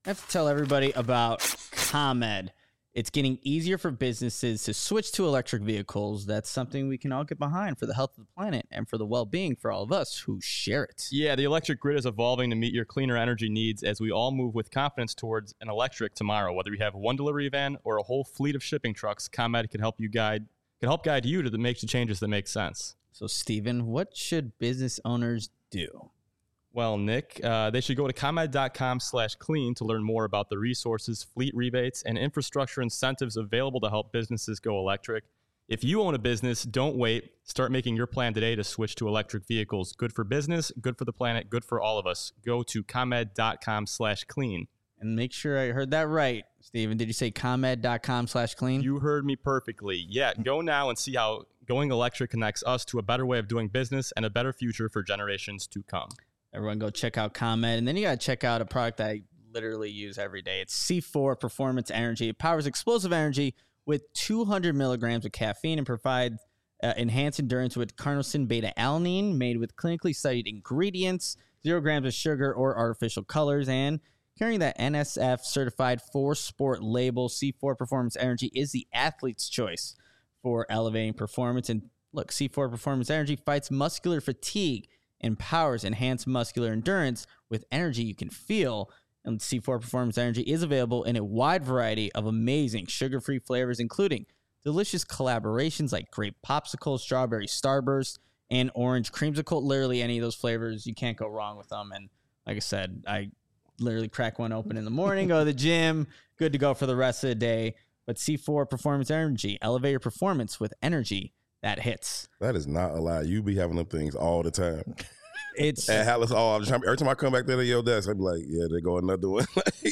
I have to tell everybody about ComEd. It's getting easier for businesses to switch to electric vehicles. That's something we can all get behind for the health of the planet and for the well-being for all of us who share it. Yeah, the electric grid is evolving to meet your cleaner energy needs as we all move with confidence towards an electric tomorrow. Whether you have one delivery van or a whole fleet of shipping trucks, ComEd can help you guide can help guide you to the make the changes that make sense. So, Steven, what should business owners do? Well, Nick, uh, they should go to ComEd.com slash clean to learn more about the resources, fleet rebates, and infrastructure incentives available to help businesses go electric. If you own a business, don't wait. Start making your plan today to switch to electric vehicles. Good for business, good for the planet, good for all of us. Go to ComEd.com slash clean. And make sure I heard that right, Steven. Did you say ComEd.com slash clean? You heard me perfectly. Yeah, go now and see how going electric connects us to a better way of doing business and a better future for generations to come. Everyone go check out ComEd. And then you got to check out a product that I literally use every day. It's C four Performance Energy. It powers explosive energy with two hundred milligrams of caffeine and provides uh, enhanced endurance with carnosine beta-alanine made with clinically studied ingredients, zero grams of sugar or artificial colors, and carrying that N S F certified for sport label. C four Performance Energy is the athlete's choice for elevating performance. And look, C four Performance Energy fights muscular fatigue, empowers enhanced muscular endurance with energy you can feel. And C four Performance Energy is available in a wide variety of amazing sugar-free flavors, including delicious collaborations like grape popsicle, strawberry starburst, and orange creamsicle. Literally any of those flavors, you can't go wrong with them. And like I said, I literally crack one open in the morning, go to the gym, good to go for the rest of the day. But C four Performance Energy, elevate your performance with energy that hits. That is not a lie. You be having them things all the time. It's and Hallis all the time. Every time I come back there to your desk, I be like, yeah, they go another one.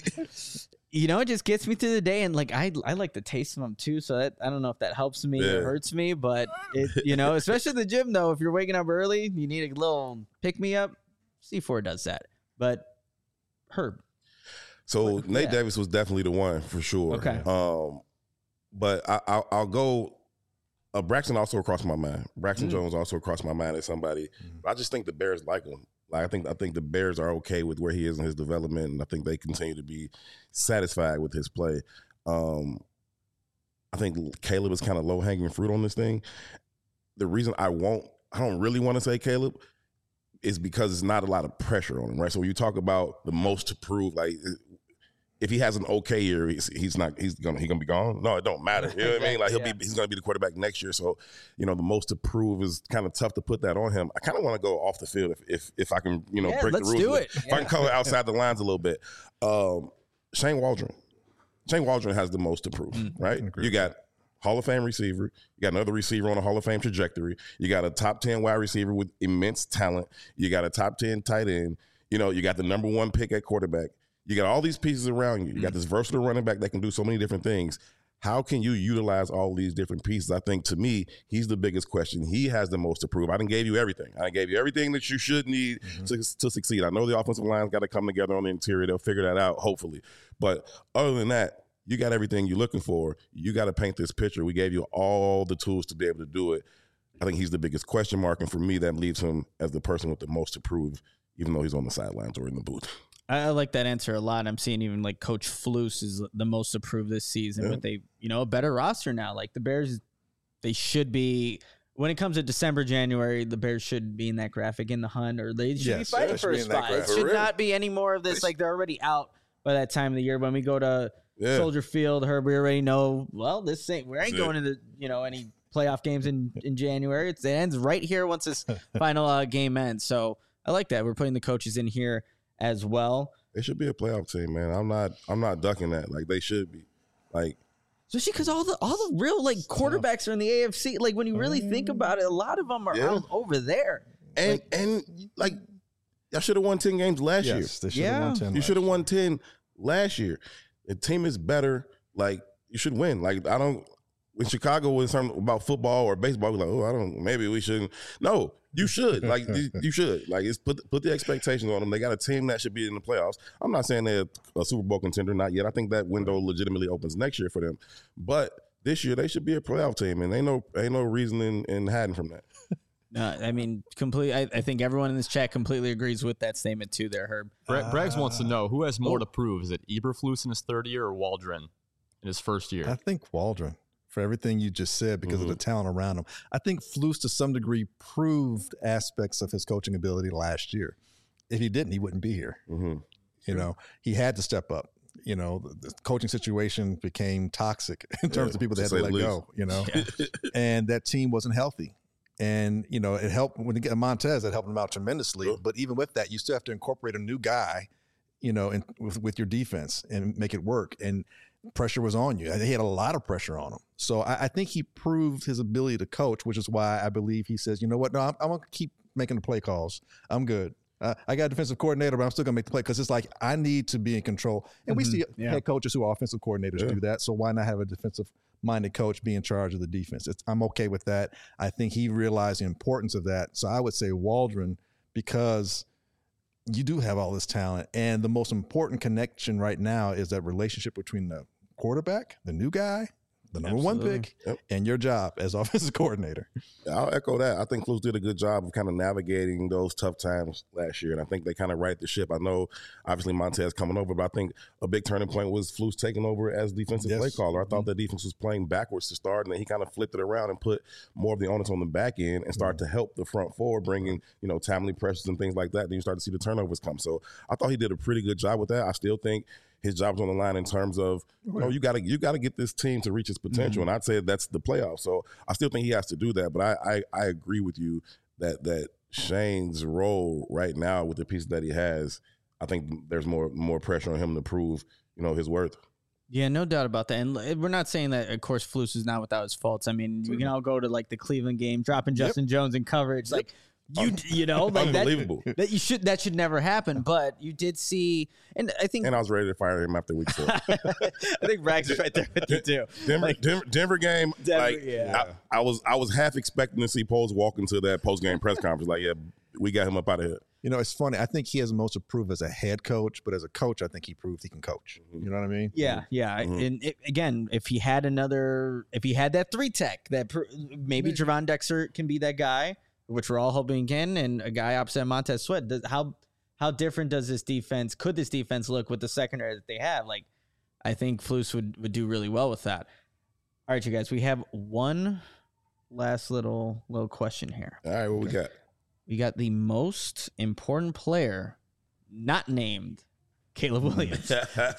You know, it just gets me through the day, and like I, I like the taste of them too. So that, I don't know if that helps me yeah. or hurts me, but it, you know, especially in the gym though, if you're waking up early, you need a little pick me up. C four does that, but Herb. So but, Nate yeah. Davis was definitely the one for sure. Okay, um, but I, I'll, I'll go. Uh, Braxton also crossed my mind. Braxton mm-hmm. Jones also crossed my mind as somebody. Mm-hmm. I just think the Bears like him. Like I think I think the Bears are okay with where he is in his development, and I think they continue to be satisfied with his play. Um, I think Caleb is kind of low hanging fruit on this thing. The reason I won't, I don't really want to say Caleb, is because it's not a lot of pressure on him, right? So when you talk about the most to prove, like if he has an okay year, he's, he's not he's gonna he gonna be gone. No, it don't matter. You know what I mean? Like he'll yeah. be he's gonna be the quarterback next year. So you know the most to prove is kind of tough to put that on him. I kind of want to go off the field if if if I can you know yeah, break let's the rules. Do it. If yeah. I can color outside the lines a little bit. Um, Shane Waldron, Shane Waldron has the most to prove, mm, right? You got Hall of Fame receiver. You got another receiver on a Hall of Fame trajectory. You got a top ten wide receiver with immense talent. You got a top ten tight end. You know, you got the number one pick at quarterback. You got all these pieces around you. You got this versatile running back that can do so many different things. How can you utilize all these different pieces? I think, to me, he's the biggest question. He has the most to prove. I done gave you everything. I done gave you everything that you should need mm-hmm. to, to succeed. I know the offensive line's got to come together on the interior. They'll figure that out, hopefully. But other than that, you got everything you're looking for. You got to paint this picture. We gave you all the tools to be able to do it. I think he's the biggest question mark, and for me, that leaves him as the person with the most to prove, even though he's on the sidelines or in the booth. I like that answer a lot. I'm seeing even like Coach Flus is the most approved this season, yeah. but they, you know, a better roster now. Like the Bears, they should be, when it comes to December, January, the Bears should be in that graphic in the hunt, or they should yes, be fighting for a spot. It should not be any more of this. Like they're already out by that time of the year. When we go to yeah. Soldier Field, Herb, we already know, well, this ain't, we ain't going to the, you know, any playoff games in, in January. It's, it ends right here once this final uh, game ends. So I like that. We're putting the coaches in here as well. They should be a playoff team, man. I'm not. I'm not ducking that. Like they should be. Like, especially because all the all the real like quarterbacks are in the A F C. Like when you really think about it, a lot of them are yeah. out over there. And like, and like, y'all should have won ten games last yes, year. They yeah, won ten you should have won ten last year. The team is better. Like you should win. Like I don't. When Chicago was something about football or baseball, we're like, oh, I don't. Maybe we shouldn't. No. You should. Like, you should. Like, it's put put the expectations on them. They got a team that should be in the playoffs. I'm not saying they're a Super Bowl contender, not yet. I think that window legitimately opens next year for them. But this year, they should be a playoff team, and ain't no ain't no reason in, in hiding from that. Uh, I mean, complete. I, I think everyone in this chat completely agrees with that statement too. There, Herb. Bra- Uh, Braggs wants to know who has more oh. to prove. Is it Eberflus in his third year or Waldron in his first year? I think Waldron, for everything you just said, because Mm-hmm. of the talent around him. I think Flus, to some degree, proved aspects of his coaching ability last year. If he didn't, he wouldn't be here. Mm-hmm. You know, he had to step up. You know, the, the coaching situation became toxic in terms Yeah, of people to that had to say let the least. go, you know, and that team wasn't healthy. And, you know, it helped when you get Montez, that helped him out tremendously. Sure. But even with that, you still have to incorporate a new guy, you know, in, with, with your defense and make it work. And pressure was on you. He had a lot of pressure on him. So I, I think he proved his ability to coach, which is why I believe he says, you know what, no, I'm, I'm going to keep making the play calls. I'm good. Uh, I got a defensive coordinator, but I'm still going to make the play because it's like I need to be in control. And we see Yeah. head coaches who are offensive coordinators Yeah. do that. So why not have a defensive-minded coach be in charge of the defense? It's, I'm okay with that. I think he realized the importance of that. So I would say Waldron, because you do have all this talent. And the most important connection right now is that relationship between the quarterback, the new guy, the number Absolutely. one pick, Yep. and your job as offensive coordinator. I'll echo that. I think Flus did a good job of kind of navigating those tough times last year, and I think they kind of right the ship. I know, obviously, Montez coming over, but I think a big turning point was Flus taking over as defensive Yes. play caller. I thought the defense was playing backwards to start, and then he kind of flipped it around and put more of the onus on the back end and started to help the front four, bringing, you know, timely pressures and things like that. Then you start to see the turnovers come. So I thought he did a pretty good job with that. I still think his job's on the line in terms of, you know, you got to you got to get this team to reach its potential, and I'd say that's the playoffs. So I still think he has to do that. But I I, I agree with you that that Shane's role right now with the pieces that he has, I think there's more more pressure on him to prove, you know, his worth. Yeah, no doubt about that. And we're not saying that, of course, Flus is not without his faults. I mean, we can all go to like the Cleveland game, dropping Justin Jones in coverage, like you, you know, like that, Unbelievable. that you should that should never happen. But you did see, and I think And I was ready to fire him after week four. I think Rags is right there with you too. Denver, Denver, Denver game, Denver, like yeah. I, I was I was half expecting to see Poles walk into that post game press conference like, yeah, we got him up out of here. You know, it's funny. I think he has most to prove as a head coach, but as a coach, I think he proved he can coach. You know what I mean? Yeah, yeah. Mhm. And it, again, if he had another, if he had that three tech, that pr- maybe Javon Dexter can be that guy, which we're all hoping he can, and a guy opposite Montez Sweat. Does, how how different does this defense? Could this defense look with the secondary that they have? Like, I think Flus would would do really well with that. All right, you guys. We have one last little little question here. All right, what we got? We got the most important player not named Caleb Williams.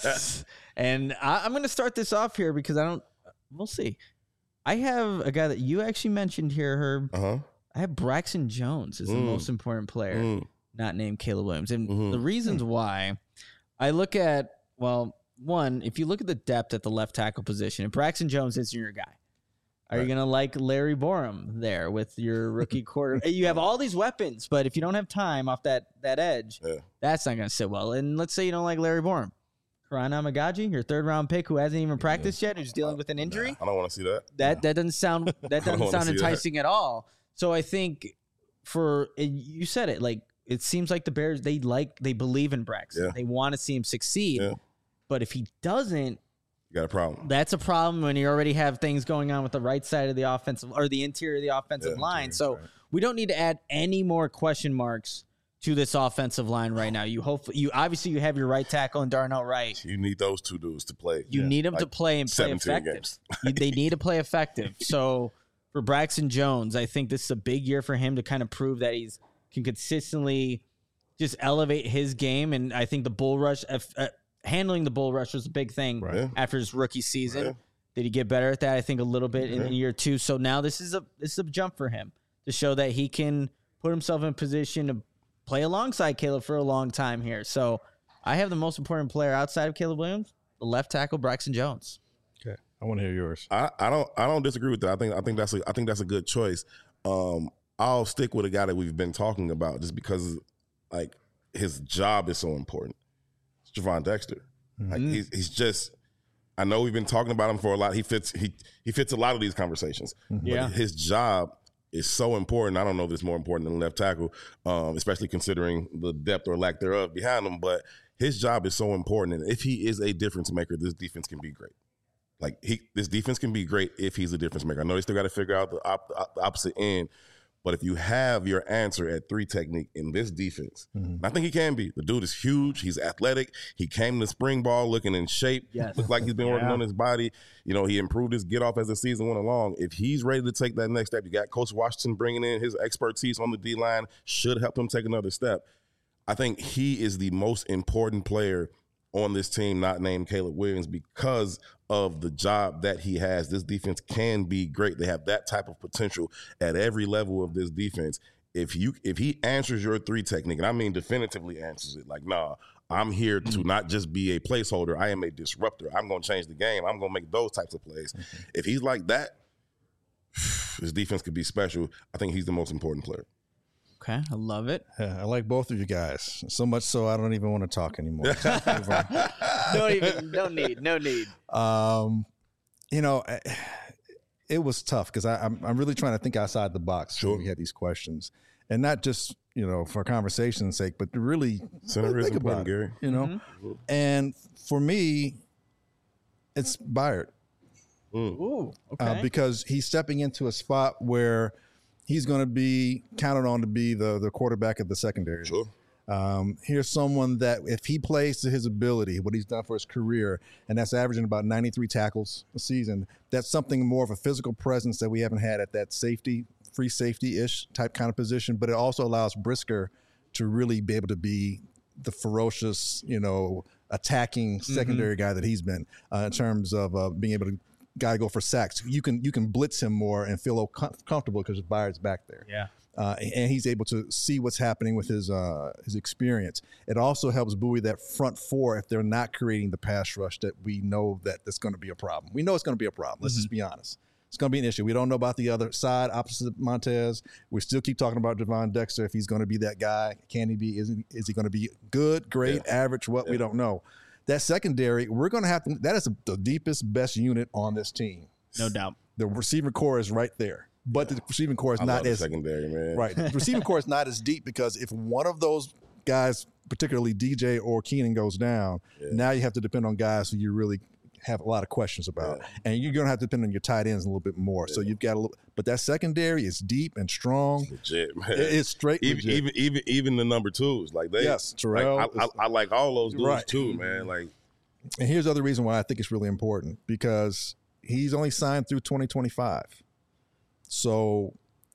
And I, I'm going to start this off here because I don't, we'll see. I have a guy that you actually mentioned here, Herb. Uh huh. I have Braxton Jones as the Mm. most important player Mm. not named Caleb Williams. And Mhm. the reasons why I look at, well, one, if you look at the depth at the left tackle position, if Braxton Jones is your guy, are you Right. going to like Larry Borum there with your rookie quarter? You have all these weapons, but if you don't have time off that that edge, Yeah. that's not going to sit well. And let's say you don't like Larry Borum. Karan Amagaji, your third round pick who hasn't even practiced yet, who's dealing with an injury. I don't want to see that. That that doesn't sound that I doesn't wanna sound see that. enticing at all. So I think for and you said it, like it seems like the Bears they like they believe in Braxton. Yeah. They want to see him succeed. Yeah. But if he doesn't, You got a problem. that's a problem when you already have things going on with the right side of the offensive or the interior of the offensive Yeah, line. So we don't need to add any more question marks to this offensive line right now. You hope you obviously you have your right tackle and Darnell Wright. You need those two dudes to play. You need them to Like play and play seventeen effective. games. You- they need to play effective. So for Braxton Jones, I think this is a big year for him to kind of prove that he's can consistently just elevate his game. And I think the bull rush, uh, uh, handling the bull rush was a big thing Right. Yeah. after his rookie season. Right. Did he get better at that? I think a little bit in Yeah. year two. So now this is a this is a jump for him to show that he can put himself in position to play alongside Caleb for a long time here. So I have the most important player outside of Caleb Williams, the left tackle Braxton Jones. Okay. I want to hear yours. I, I don't I don't disagree with that. I think I think that's a I think that's a good choice. Um, I'll stick with a guy that we've been talking about just because like his job is so important. It's Javon Dexter. Like he's he's just I know we've been talking about him for a lot. He fits he he fits a lot of these conversations. Yeah. But his job is so important. I don't know if it's more important than left tackle, um, especially considering the depth or lack thereof behind him. But his job is so important. And if he is a difference maker, this defense can be great. Like he, this defense can be great if he's a difference maker. I know they still got to figure out the, op, the opposite end, But if you have your answer at three technique in this defense, mm-hmm. and I think he can be. The dude is huge. He's athletic. He came to spring ball looking in shape. Yes. Looked like he's been yeah. working on his body. You know, he improved his get off as the season went along. If he's ready to take that next step, you got Coach Washington bringing in his expertise on the D-line, should help him take another step. I think he is the most important player on this team, not named Caleb Williams, because of the job that he has. This defense can be great. They have that type of potential at every level of this defense. If you if he answers your three technique, and I mean definitively answers it, like, nah, I'm here to not just be a placeholder. I am a disruptor. I'm going to change the game. I'm going to make those types of plays. Mm-hmm. If he's like that, his defense could be special. I think he's the most important player. Okay, I love it. Yeah, I like both of you guys so much so I don't even want to talk anymore. don't even, no need, no need. Um, you know, it was tough because I'm I'm really trying to think outside the box sure. when we had these questions, and not just you know for conversation's sake, but to really Center think is about it, Gary. You know, mm-hmm. and for me, it's Byard. Mm. Ooh, okay. Uh, because he's stepping into a spot where he's going to be counted on to be the, the quarterback of the secondary. Sure. Um, here's someone that if he plays to his ability, what he's done for his career, and that's averaging about ninety-three tackles a season, that's something more of a physical presence that we haven't had at that safety, free safety-ish type kind of position. But it also allows Brisker to really be able to be the ferocious, you know, attacking secondary mm-hmm. guy that he's been uh, in terms of uh, being able to guy go for sacks. You can you can blitz him more and feel com- comfortable because Byard's back there. Yeah, uh, and he's able to see what's happening with his uh, his experience. It also helps buoy that front four if they're not creating the pass rush that we know that that's going to be a problem. We know it's going to be a problem. Let's mm-hmm. just be honest. It's going to be an issue. We don't know about the other side opposite Montez. We still keep talking about Javon Dexter. If he's going to be that guy, can he be? Is he, is he going to be good, great, yeah. average? What yeah. we don't know. That secondary, we're going to have to – that is the deepest, best unit on this team. No doubt. The receiving core is right there. But yeah. the receiving core is I not love the as – secondary, man. Right. The receiving core is not as deep because if one of those guys, particularly D J or Keenan, goes down, yeah. now you have to depend on guys who you really have a lot of questions about. Yeah. And you're going to have to depend on your tight ends a little bit more. Yeah. So you've got a little – but that secondary is deep and strong. It's legit, man. It's straight even, legit. Even, even, even the number twos. Like they – Yes, Terrell. Like, I, I, I like all those dudes right. too, man. Like – And here's the other reason why I think it's really important, because he's only signed through twenty twenty-five. So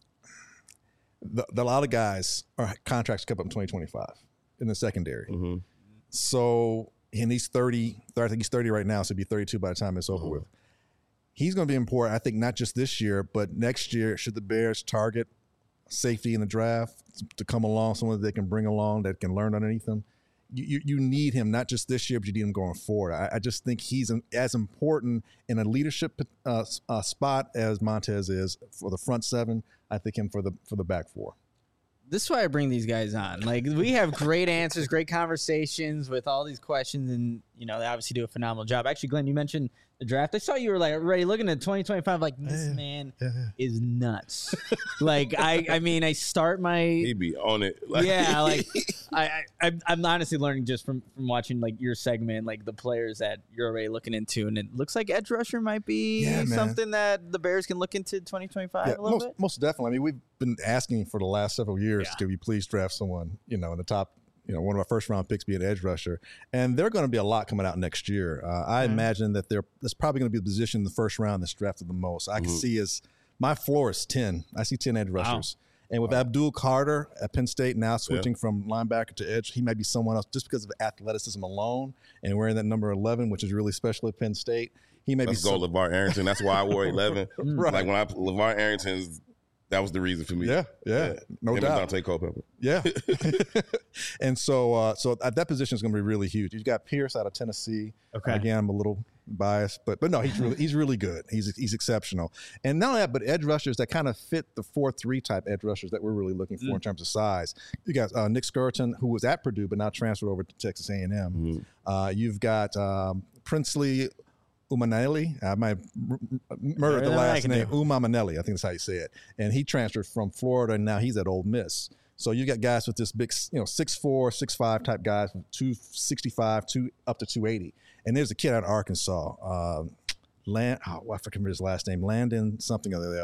the, the, a lot of guys are contracts come up in twenty twenty-five in the secondary. Mm-hmm. So, and he's thirty, I think he's thirty right now, so he'll be thirty-two by the time it's over mm-hmm. with. He's going to be important, I think, not just this year, but next year, should the Bears target safety in the draft to come along, someone that they can bring along that can learn underneath them. You, you need him, not just this year, but you need him going forward. I, I just think he's an, as important in a leadership uh, uh, spot as Montez is for the front seven. I think him for the for the back four. This is why I bring these guys on. Like, we have great answers, great conversations with all these questions, and, you know, they obviously do a phenomenal job. Actually, Glenn, you mentioned the draft. I saw you were, like, already looking at twenty twenty-five, like, this yeah, man yeah, yeah. is nuts. like, I I mean, I start my... He'd be on it. Like, yeah, like, I, I, I'm honestly learning just from, from watching, like, your segment, like, the players that you're already looking into, and it looks like edge rusher might be yeah, something that the Bears can look into twenty twenty-five yeah, a little most, bit. Most definitely. I mean, we've been asking for the last several years, Yeah. could we please draft someone, you know, in the top, you know, one of our first round picks be an edge rusher. And there are going to be a lot coming out next year. Uh, I Mhm. imagine that there that's probably going to be the position in the first round that's drafted the most. I can Mhm. see as my floor is ten. I see ten edge Wow. rushers. And with Abdul Carter at Penn State now switching from linebacker to edge, he might be someone else just because of athleticism alone and wearing that number eleven, which is really special at Penn State. He may Let's be go some, LeVar Arrington. That's why I wore eleven. Right. Like when I LeVar Arrington's, that was the reason for me. Yeah, yeah, no Him doubt. And Dante Culpepper. Yeah. And so uh, so at that position is going to be really huge. You've got Pierce out of Tennessee. Okay. Again, I'm a little biased, but but no, he's really he's really good. He's he's exceptional. And not only that, but edge rushers that kind of fit the four three type edge rushers that we're really looking for Mm. in terms of size. You got uh, Nick Skirton, who was at Purdue but now transferred over to Texas A and M. Mm-hmm. Uh, you've got um, Princely Umanelli. I might m- m- murder the Better than I last can name. do. Umamanelli, I think that's how you say it. And he transferred from Florida, and now he's at Ole Miss. So you got guys with this big, you know, six four, six five type guys, two sixty-five, two up to two eighty. And there's a kid out of Arkansas, um, Land. Oh, I forget his last name, Landon something or the other.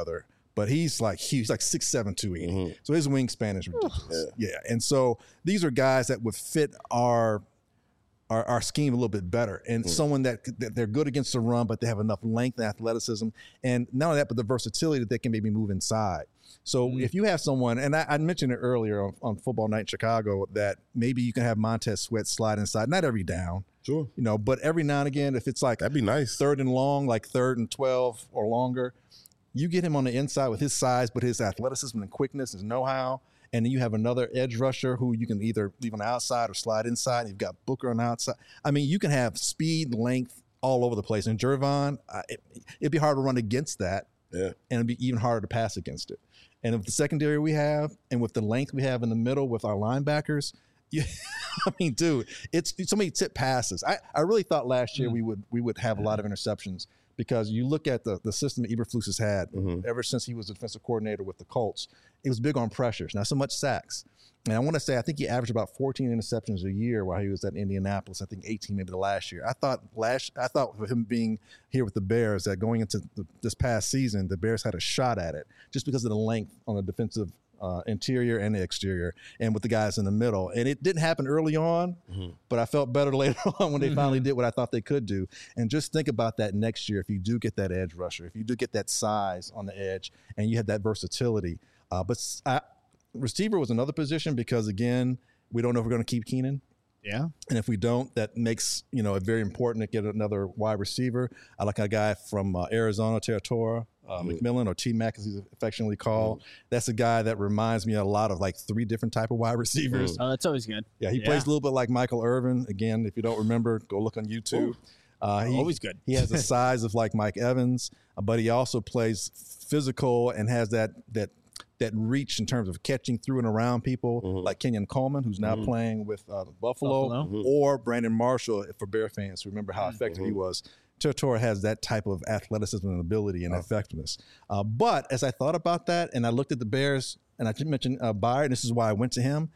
but he's like huge, he's like six seven, two eighty. Mhm. So his wingspan is ridiculous. Yeah. And so these are guys that would fit our our, our scheme a little bit better, and Mm. someone that, that they're good against the run, but they have enough length and athleticism, and not only that, but the versatility that they can maybe move inside. So Mm. if you have someone, and I, I mentioned it earlier on, on Football Night in Chicago, that maybe you can have Montez Sweat slide inside, not every down, Sure. you know, but every now and again, if it's like That'd be nice. third and long, like third and twelve or longer, you get him on the inside with his size, but his athleticism and quickness, his know-how. And then you have another edge rusher who you can either leave on the outside or slide inside. You've got Booker on the outside. I mean, you can have speed, length all over the place. And Jervon, uh, it, it'd be hard to run against that. Yeah. And it'd be even harder to pass against it. And with the secondary we have, and with the length we have in the middle with our linebackers, you, I mean, dude, it's, it's so many tip passes. I, I really thought last year mm. we would we would have a lot of interceptions, because you look at the, the system that Eberflus has had Mhm. ever since he was the defensive coordinator with the Colts. It was big on pressures, not so much sacks. And I want to say, I think he averaged about fourteen interceptions a year while he was at Indianapolis. I think eighteen maybe the last year. I thought last, I thought with him being here with the Bears, that going into the, this past season, the Bears had a shot at it just because of the length on the defensive uh, interior and the exterior, and with the guys in the middle. And it didn't happen early on, Mhm. but I felt better later on when they Mhm. finally did what I thought they could do. And just think about that next year, if you do get that edge rusher, if you do get that size on the edge, and you have that versatility. Uh, but I, receiver was another position, because again, we don't know if we're going to keep Keenan. Yeah. And if we don't, that makes, you know, it very important to get another wide receiver. I like a guy from uh, Arizona, Territora, uh, Mhm. McMillan, or T-Mac as he's affectionately called. Mm-hmm. That's a guy that reminds me a lot of like three different type of wide receivers. Oh, that's always good. Yeah, he Yeah. plays a little bit like Michael Irvin. Again, if you don't remember, go look on YouTube. Uh, he, Always good. He has the size of like Mike Evans, uh, but he also plays physical and has that that that reach in terms of catching through and around people, Mhm. like Kenyon Coleman, who's now Mhm. playing with uh, Buffalo, Buffalo. Mhm. or Brandon Marshall, for Bear fans. Remember how effective he Mhm. was. Territora has that type of athleticism and ability and Oh. effectiveness. Uh, but as I thought about that, and I looked at the Bears, and I didn't mention uh, Byard, this is why I went to him.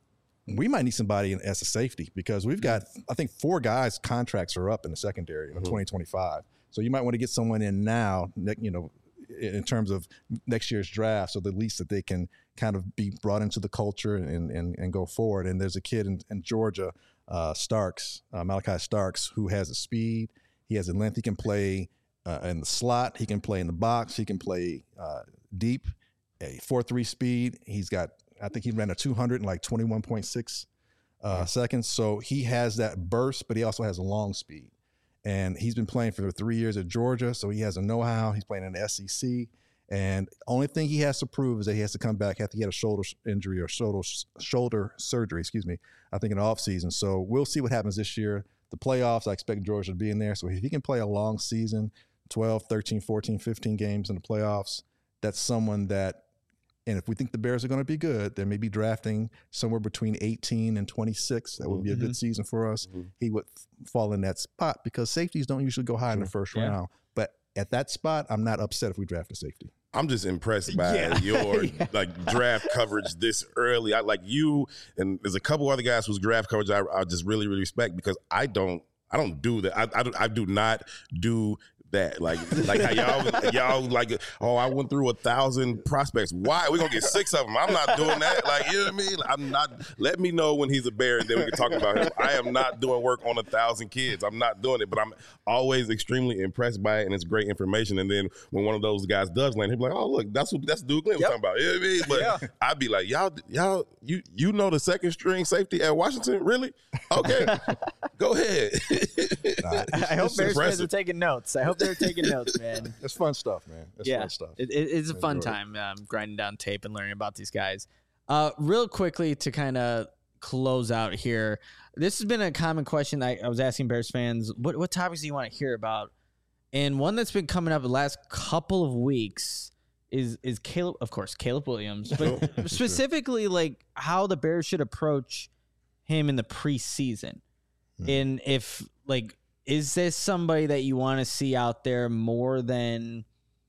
We might need somebody in, as a safety, because we've got, I think, four guys' contracts are up in the secondary in Mhm. twenty twenty-five. So you might want to get someone in now, ne- you know, in terms of next year's draft, so the least that they can kind of be brought into the culture and and, and go forward. And there's a kid in, in Georgia, uh, Starks, uh, Malachi Starks, who has a speed, he has a length, he can play uh, in the slot, he can play in the box, he can play uh, deep, a four three speed. He's got, I think he ran a two hundred in like twenty-one point six uh, seconds. So he has that burst, but he also has a long speed. And he's been playing for three years at Georgia, so he has a know-how. He's playing in the S E C. And only thing he has to prove is that he has to come back after he had a shoulder injury or shoulder shoulder surgery, excuse me, I think in the offseason. So we'll see what happens this year. The playoffs, I expect Georgia to be in there. So if he can play a long season, twelve, thirteen, fourteen, fifteen games in the playoffs, that's someone that, and if we think the Bears are going to be good, they may be drafting somewhere between eighteen and twenty-six. That would be a good season for us. Mhm. He would fall in that spot, because safeties don't usually go high in the first Yeah. round. But at that spot, I'm not upset if we draft a safety. I'm just impressed by Yeah. your Yeah. like draft coverage this early. I like you, and there's a couple other guys whose draft coverage I, I just really, really respect, because I don't, I don't do that. I, I, do, I do not do that. Like, like how y'all, y'all like, oh, I went through a thousand prospects. Why? We're gonna get six of them. I'm not doing that. Like, you know what I mean? I'm not. Let me know when he's a Bear, and then we can talk about him. I am not doing work on a thousand kids. I'm not doing it, but I'm always extremely impressed by it, and it's great information. And then when one of those guys does land, he'll be like, oh, look, that's what that's the dude Glenn was Yep. talking about. You know what I mean? But Yeah. I'd be like, y'all, y'all, you you know the second string safety at Washington? Really? Okay, go ahead. Nah, I hope It's Bears fans impressive. are taking notes. I hope they're taking notes, man. It's fun stuff, man. It's yeah, fun stuff. It, it, it's a fun Enjoy it. time um, grinding down tape and learning about these guys. Uh, real quickly to kind of close out here, this has been a common question I, I was asking Bears fans. What what topics do you want to hear about? And one that's been coming up the last couple of weeks is is Caleb, of course, Caleb Williams, but specifically like how the Bears should approach him in the preseason. Hmm. And if like, is this somebody that you want to see out there more than,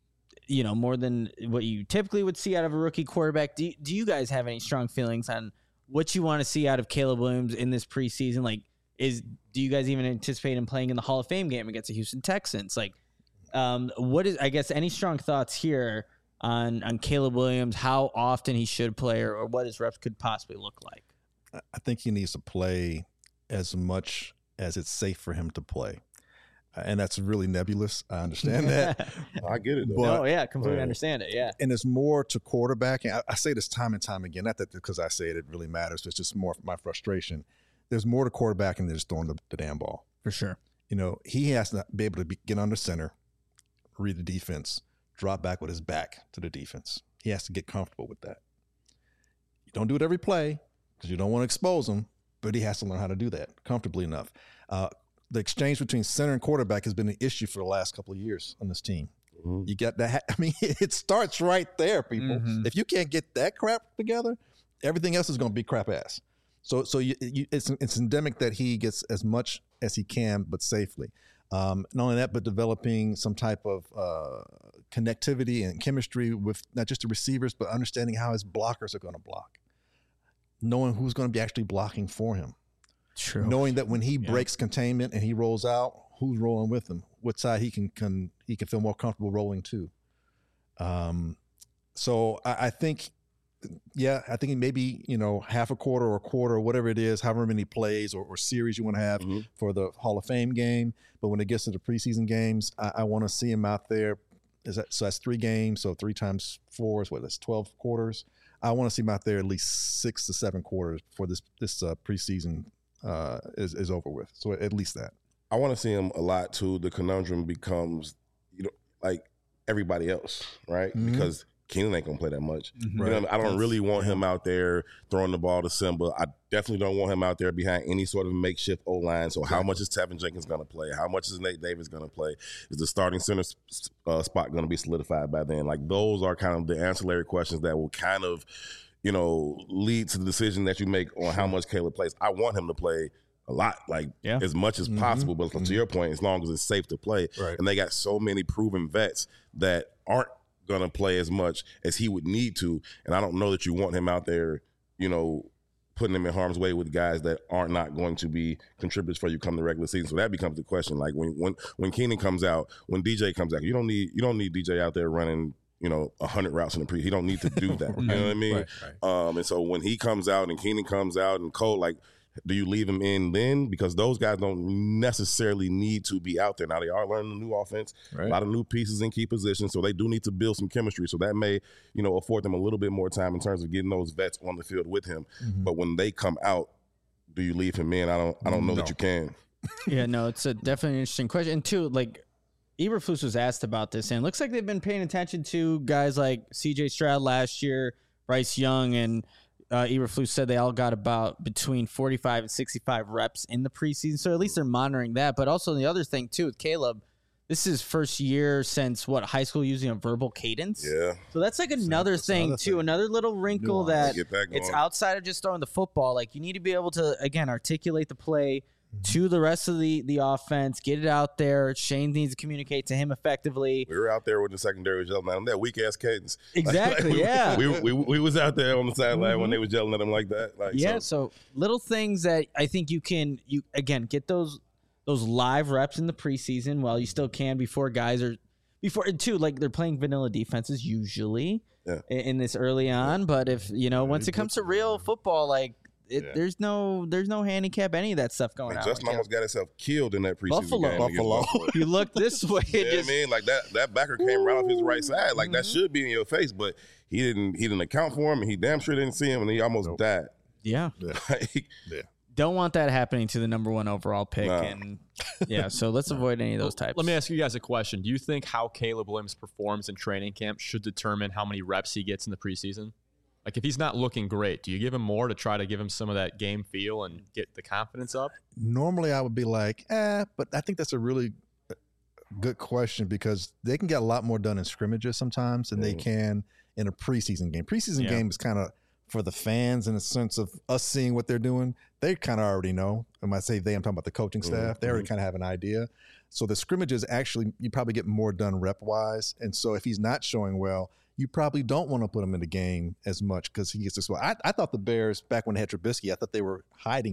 you know, more than what you typically would see out of a rookie quarterback? Do you, do you guys have any strong feelings on what you want to see out of Caleb Williams in this preseason? Like, is do you guys even anticipate him playing in the Hall of Fame game against the Houston Texans? Like, um, what is, I guess, any strong thoughts here on on Caleb Williams, how often he should play, or, or what his reps could possibly look like? I think he needs to play as much as it's safe for him to play. And that's really nebulous. I understand that. I get it, though. But, oh, yeah, completely right. understand it, yeah. And it's more to quarterbacking. I, I say this time and time again, not that because I say it, it really matters. It's just more my frustration. There's more to quarterbacking than just throwing the, the damn ball. For sure. You know, he has to be able to be, get under center, read the defense, drop back with his back to the defense. He has to get comfortable with that. You don't do it every play because you don't want to expose him, but he has to learn how to do that comfortably enough. Uh, the exchange between center and quarterback has been an issue for the last couple of years on this team. Mm-hmm. You got that. I mean, it starts right there, people. Mm-hmm. If you can't get that crap together, everything else is going to be crap ass. So, so you, you, it's it's endemic that he gets as much as he can, but safely. Um, not only that, but developing some type of uh, connectivity and chemistry with not just the receivers, but understanding how his blockers are going to block, knowing who's going to be actually blocking for him. True. Knowing that when he yeah. breaks containment and he rolls out, who's rolling with him? What side he can, can he can feel more comfortable rolling to. Um, so I, I think, yeah, I think maybe you know half a quarter or a quarter or whatever it is, however many plays or, or series you want to have mm-hmm. for the Hall of Fame game. But when it gets to the preseason games, I, I want to see him out there. Is that so? That's three games. So three times four is what? That's twelve quarters. I want to see him out there at least six to seven quarters before this this uh, preseason. Uh, is, is over with. So at least that. I want to see him a lot too. The conundrum becomes, you know, like everybody else, right? Mm-hmm. Because Keenan ain't gonna play that much. Mm-hmm. You know what I mean? I don't That's, really want yeah. him out there throwing the ball to Simba. I definitely don't want him out there behind any sort of makeshift O-line. So exactly. how much is Tevin Jenkins gonna play? How much is Nate Davis gonna play? Is the starting center uh, spot gonna be solidified by then? Like those are kind of the ancillary questions that will kind of, you know, lead to the decision that you make on how much Caleb plays. I want him to play a lot, like yeah. as much as mm-hmm. possible. But mm-hmm. to your point, as long as it's safe to play. Right. And they got so many proven vets that aren't going to play as much as he would need to. And I don't know that you want him out there, you know, putting him in harm's way with guys that are not going to be contributors for you come the regular season. So that becomes the question. Like when when when Keenan comes out, when D J comes out, you don't need you don't need D J out there running, you know, a hundred routes in the pre. He don't need to do that. You know what I mean? Right, right. Um, and so when he comes out and Keenan comes out and Cole, like, do you leave him in then? Because those guys don't necessarily need to be out there. Now they are learning a new offense, right. a lot of new pieces in key positions, so they do need to build some chemistry. So that may, you know, afford them a little bit more time in terms of getting those vets on the field with him. Mm-hmm. But when they come out, do you leave him in? I don't. I don't know no. that you can. Yeah, no, it's a definitely an interesting question. And two, like, Eberflus was asked about this, and it looks like they've been paying attention to guys like C J Stroud last year, Bryce Young, and uh, Eberflus said they all got about between forty-five and sixty-five reps in the preseason. So at least they're monitoring that. But also the other thing, too, with Caleb, this is his first year since, what, high school using a verbal cadence? Yeah. So that's like another that's thing, another too, thing. another little wrinkle that, that it's outside of just throwing the football. Like, you need to be able to, again, articulate the play to the rest of the, the offense, get it out there. Shane needs to communicate to him effectively. We were out there with the secondary yelling at him, that weak-ass cadence. Exactly, like, like, yeah. We, we, we, we was out there on the sideline mm-hmm. when they was yelling at him like that. Like, yeah, so. so little things that I think you can, you again, get those those live reps in the preseason while you still can before guys are, before, and two, like they're playing vanilla defenses usually yeah. in, in this early on. Yeah. But if, you know, yeah, once it comes to real football, like, It, yeah. There's no, there's no handicap, any of that stuff going on. Justin almost got himself killed in that preseason Buffalo. game. Buffalo. Buffalo. You look this way. You know what I mean? Like that, that backer came right off his right side. Like mm-hmm. that should be in your face, but he didn't. He didn't account for him, and he damn sure didn't see him, and he almost nope. died. Yeah. Yeah. like, yeah. Don't want that happening to the number one overall pick, nah. and yeah. So let's avoid any of those types. Let me ask you guys a question. Do you think how Caleb Williams performs in training camp should determine how many reps he gets in the preseason? Like, if he's not looking great, do you give him more to try to give him some of that game feel and get the confidence up? Normally, I would be like, eh, but I think that's a really good question because they can get a lot more done in scrimmages sometimes than mm. they can in a preseason game. Preseason yeah. game is kind of for the fans in the sense of us seeing what they're doing. They kind of already know. And when I say they, I'm talking about the coaching staff. Mm-hmm. They already kind of have an idea. So the scrimmages, actually, you probably get more done rep-wise. And so if he's not showing well, you probably don't want to put him in the game as much because he gets this well. I, I thought the Bears, back when they had Trubisky, I thought they were hiding him.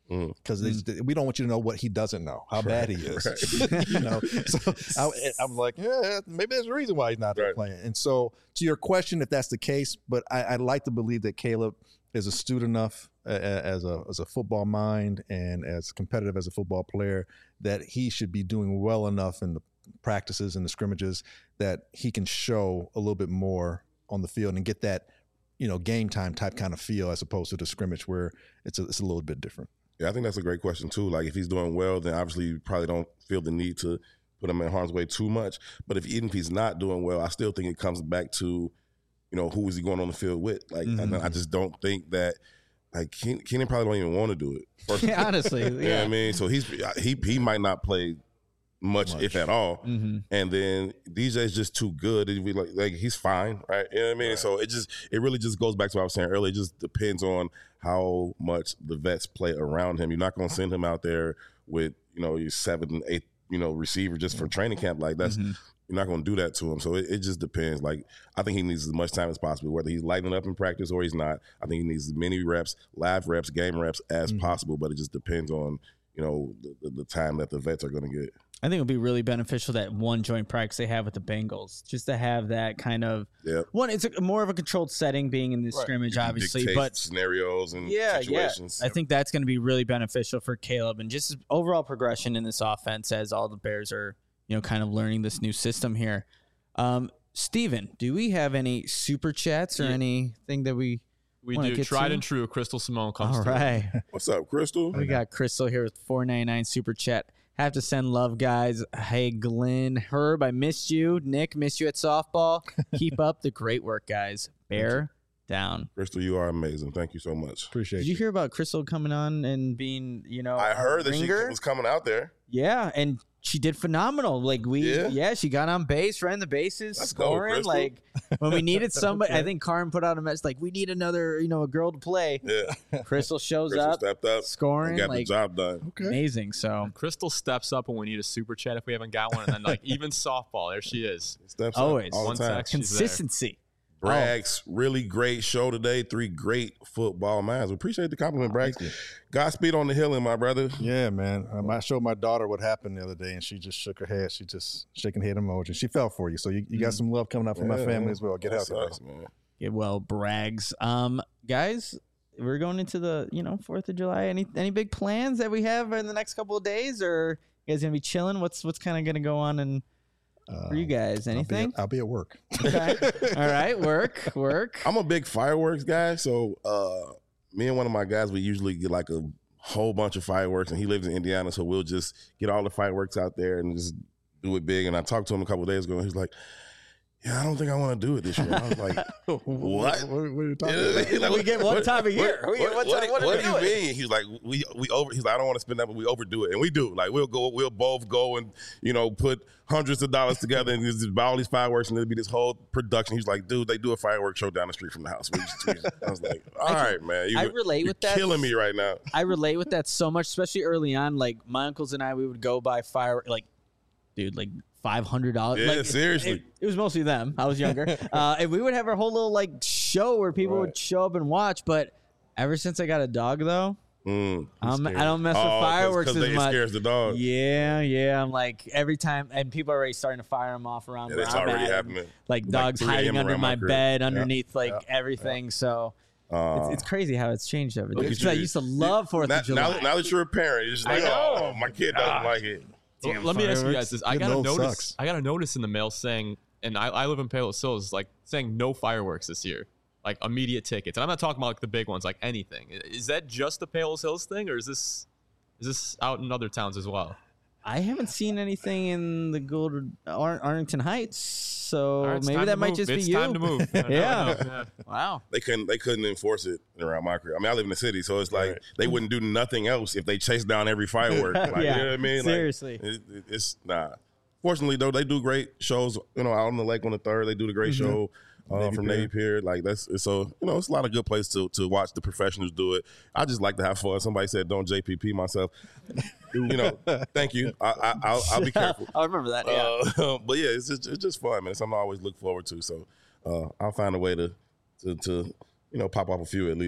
because Mm. we don't want you to know what he doesn't know, how bad he is. Right. You know, so I, I'm like, yeah, maybe there's a reason why he's not there Right. playing. And so, to your question, if that's the case, but I, I'd like to believe that Caleb is astute enough uh, as a as a football mind and as competitive as a football player that he should be doing well enough in the practices and the scrimmages that he can show a little bit more on the field and get that, you know, game time type kind of feel as opposed to the scrimmage where it's a, it's a little bit different. Yeah, I think that's a great question too. Like if he's doing well, then obviously you probably don't feel the need to put him in harm's way too much. But if even if he's not doing well, I still think it comes back to, you know, who is he going on the field with? Like Mm-hmm. I, I just don't think that like Keenan, Keenan probably don't even want to do it. Personally. Honestly, You know yeah. what I mean? So he's he he might not play much, Much. if at all. Mm-hmm. And then D J's just too good. It'd be like, like he's fine, right? You know what I mean? So it just it really just goes back to what I was saying earlier. It just depends on how much the vets play around him. You're not going to send him out there with, you know, your seventh, eighth, you know, receiver just for training camp. Like that's Mm-hmm. you're not going to do that to him. So it, it just depends. Like I think he needs as much time as possible, whether he's lighting up in practice or he's not. I think he needs as many reps, live reps, game reps as Mm-hmm. possible. But it just depends on, you know, the, the, the time that the vets are going to get. I think it would be really beneficial that one joint practice they have with the Bengals, just to have that kind of Yep. one. It's a, more of a controlled setting, being in this Right. scrimmage, obviously, Dictate but scenarios and yeah, situations. yeah, I think that's going to be really beneficial for Caleb and just his overall progression in this offense as all the Bears are, you know, kind of learning this new system here. Um, Steven, do we have any super chats or Yeah. anything that we? We Wanna do. get Tried to? and true. Crystal Simone comes All through. right. What's up, Crystal? We got Crystal here with four ninety-nine super chat. Have to send love, guys. Hey, Glenn, Herb, I missed you. Nick, missed you at softball. Keep up the great work, guys. Bear down. Crystal, you are amazing. Thank you so much. Appreciate Did you hear about Crystal coming on and being, you know, I a heard that she ringer? was coming out there. Yeah, and she did phenomenal. Like we, Yeah? yeah, she got on base, ran the bases, Let's go, scoring. Crystal. Like when we needed somebody, I Okay. think Karin put out a message like, "We need another, you know, a girl to play." Yeah. Crystal shows Crystal up, stepped up scoring, and got like the job done. Okay. amazing. So Crystal steps up when we need a super chat if we haven't got one, and then like even softball, there she is. Steps Always. up all One the time. text. She's there. consistency. Braggs, really great show today. Three great football minds. We appreciate the compliment, Braggs. Thank you. Godspeed on the healing, my brother. Yeah, man. Um, I showed my daughter what happened the other day, and she just shook her head. She just shaking head emoji. She fell for you, so you, you got some love coming out from my Yeah, family as well. Get that healthy, bro. sucks, man. Get well, Braggs. Um, guys, we're going into the you know Fourth of July. Any any big plans that we have in the next couple of days, or you guys gonna be chilling? What's what's kind of gonna go on and for you guys? I'll be, Anything? at, I'll be at work. Okay. All right, work, work. I'm a big fireworks guy, so uh, me and one of my guys, we usually get like a whole bunch of fireworks, and he lives in Indiana, so we'll just get all the fireworks out there and just do it big. And I talked to him a couple of days ago, and he's like, yeah, I don't think I want to do it this year. I was like, what? What, what are you talking Yeah, about? like, We get one time a year. What, We get one what- time- what, what are what do we you doing? mean? He's like, we we over. He's like, I don't want to spend that, but we overdo it, and we do. Like we'll go, we'll both go and you know put hundreds of dollars together and just buy all these fireworks, and it'll be this whole production. He's like, dude, they do a fireworks show down the street from the house. We just, we just, I was like, all right, man, you, I relate you're with that. killing me right now. I relate with that so much, especially early on. Like my uncles and I, we would go buy fire, like, dude, like five hundred dollars. Yeah, like, seriously. It, it was mostly them. I was younger, uh, and we would have our whole little like show where people Right. would show up and watch. But ever since I got a dog, though, Mm. um, I don't mess Oh, with 'cause- fireworks 'cause as they, it much. scares the dog. Yeah, yeah. I'm like every time, and people are already starting to fire them off around. Yeah, where that's I'm already at, happening. Like Like dogs three a.m. hiding under around my my crib. bed, Yeah, underneath like yeah, everything. So Uh, it's, it's crazy how it's changed everything. Look at Because I you. used to love Fourth now, of July. now, now that you're a parent, you're just I like, know. oh, my kid doesn't like it. Well, Damn let me ask you fireworks. guys this. I Getting got a old notice. sucks. I got a notice in the mail saying, and I, I live in Palos Hills, like saying no fireworks this year, like immediate tickets. And I'm not talking about like the big ones, like anything. Is that just the Palos Hills thing, or is this is this out in other towns as well? I haven't seen anything in the Gold Ar- Arlington Heights, so All right, it's maybe time that to might move. just it's be you. time to move. I know, I Yeah. know, yeah. Wow. They couldn't they couldn't enforce it around my crib. I mean, I live in the city, so it's like Right. they wouldn't do nothing else if they chased down every firework. Like, Yeah, you know what I mean? seriously. Like, it, it- it's nah. Fortunately, though, they do great shows. You know, out on the lake on the third, they do the great Mm-hmm. show uh, Navy from Pier. Navy Pier. Like that's so you know, it's a lot of good place to to watch the professionals do it. I just like to have fun. Somebody said, "Don't J P P myself." You know, thank you. I, I, I'll, I'll be careful. I remember that. Yeah. Uh, but yeah, it's just, it's just fun, man. It's something I always look forward to. So uh, I'll find a way to, to to you know pop off a few at least.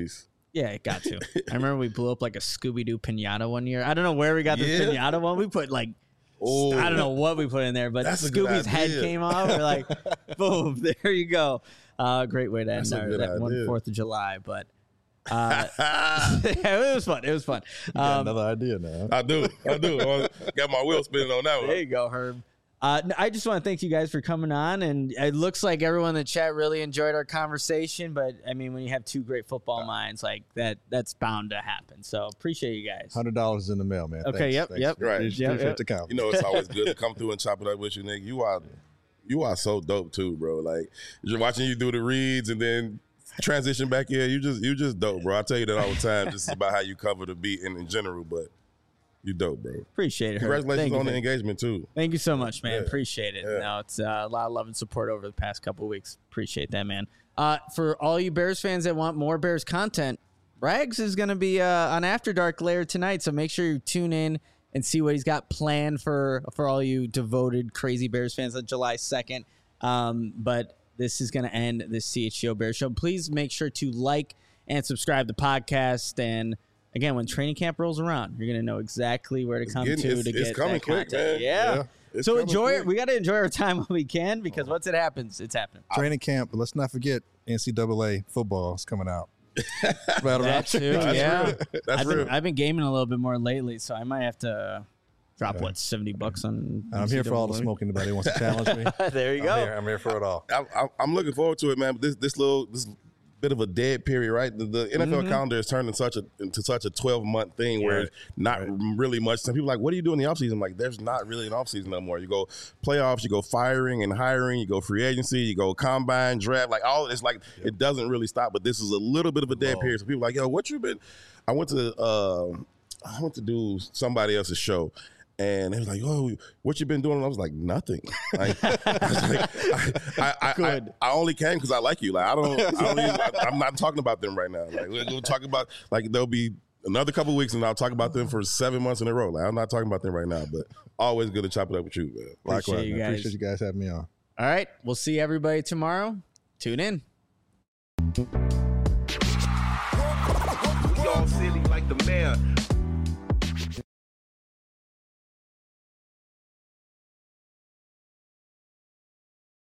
Yeah, it got to. I remember we blew up like a Scooby-Doo pinata one year. I don't know where we got this Yeah. pinata one. We put like, Oh, I don't know what we put in there, but That's a good Scooby's head idea. came off. We're like, boom, there you go. Uh, great way to end That's a our, good that one idea. fourth of July. But uh, it was fun. It was fun. Got Um, another idea now. I do. I do. I got my wheel spinning on that There one. you go, Herb. Uh, I just want to thank you guys for coming on, and it looks like everyone in the chat really enjoyed our conversation. But I mean, when you have two great football minds like that, that's bound to happen. So appreciate you guys. Hundred dollars in the mail, man. Okay, Thanks, yep, thanks. yep. Right. Appreciate, Yep, appreciate yep. the comment. You know, it's always good to come through and chop it up with you, nigga. You are, you are so dope too, bro. Like just watching you do the reads and then transition back in. You just, you just dope, bro. I tell you that all the time. Just about how you cover the beat and in general, but you dope, bro. Appreciate it. Herb. Congratulations Thank you, on the thank- engagement too. Thank you so much, man. Yeah. Appreciate it. Yeah. No, it's uh, a lot of love and support over the past couple of weeks. Appreciate that, man. Uh, for all you Bears fans that want more Bears content, Rags is going to be uh, on After Dark later tonight, so make sure you tune in and see what he's got planned for for all you devoted, crazy Bears fans on July second. Um, but this is going to end this C H G O Bears show. Please make sure to like and subscribe to the podcast. And again, when training camp rolls around, you're going to know exactly where to come getting- to it's- to it's get coming that quick, content. man. Yeah. Yeah. It's So coming enjoy it. quick. We got to enjoy our time when we can, because once it happens, it's happening. Training camp, but let's not forget N C double A football is coming out. Right around. That too, That's yeah. real. That's I've real. been, I've been gaming a little bit more lately, so I might have to drop what seventy bucks on. I'm here for all the smoke. Anybody wants to challenge me? There you I'm go. here. I'm here for it all. I, I, I'm looking forward to it, man. But this this little this bit of a dead period, right? The, the N F L Mm-hmm. calendar is turned into such a into such a twelve month thing where it's not really much. Some people are like, what do you do in the offseason? I'm like, there's not really an offseason no more. You go playoffs, you go firing and hiring, you go free agency, you go combine, draft, like all it's like it doesn't really stop. But this is a little bit of a dead Whoa. period. So people are like, yo, what you been? I went to uh, I went to do somebody else's show. And they was like, "Oh, what you been doing?" And I was like, "Nothing." Like, I, was like, I, I, I, Good. I, I only came because I like you. Like I don't, I don't even, I, I'm not talking about them right now. Like we're, we're talking about like there'll be another couple weeks and I'll talk about them for seven months in a row. Like I'm not talking about them right now, but always good to chop it up with you, man. Likewise, Appreciate you man. guys. Appreciate you guys having me on. All right. We'll see everybody tomorrow. Tune in. We all silly like the mayor.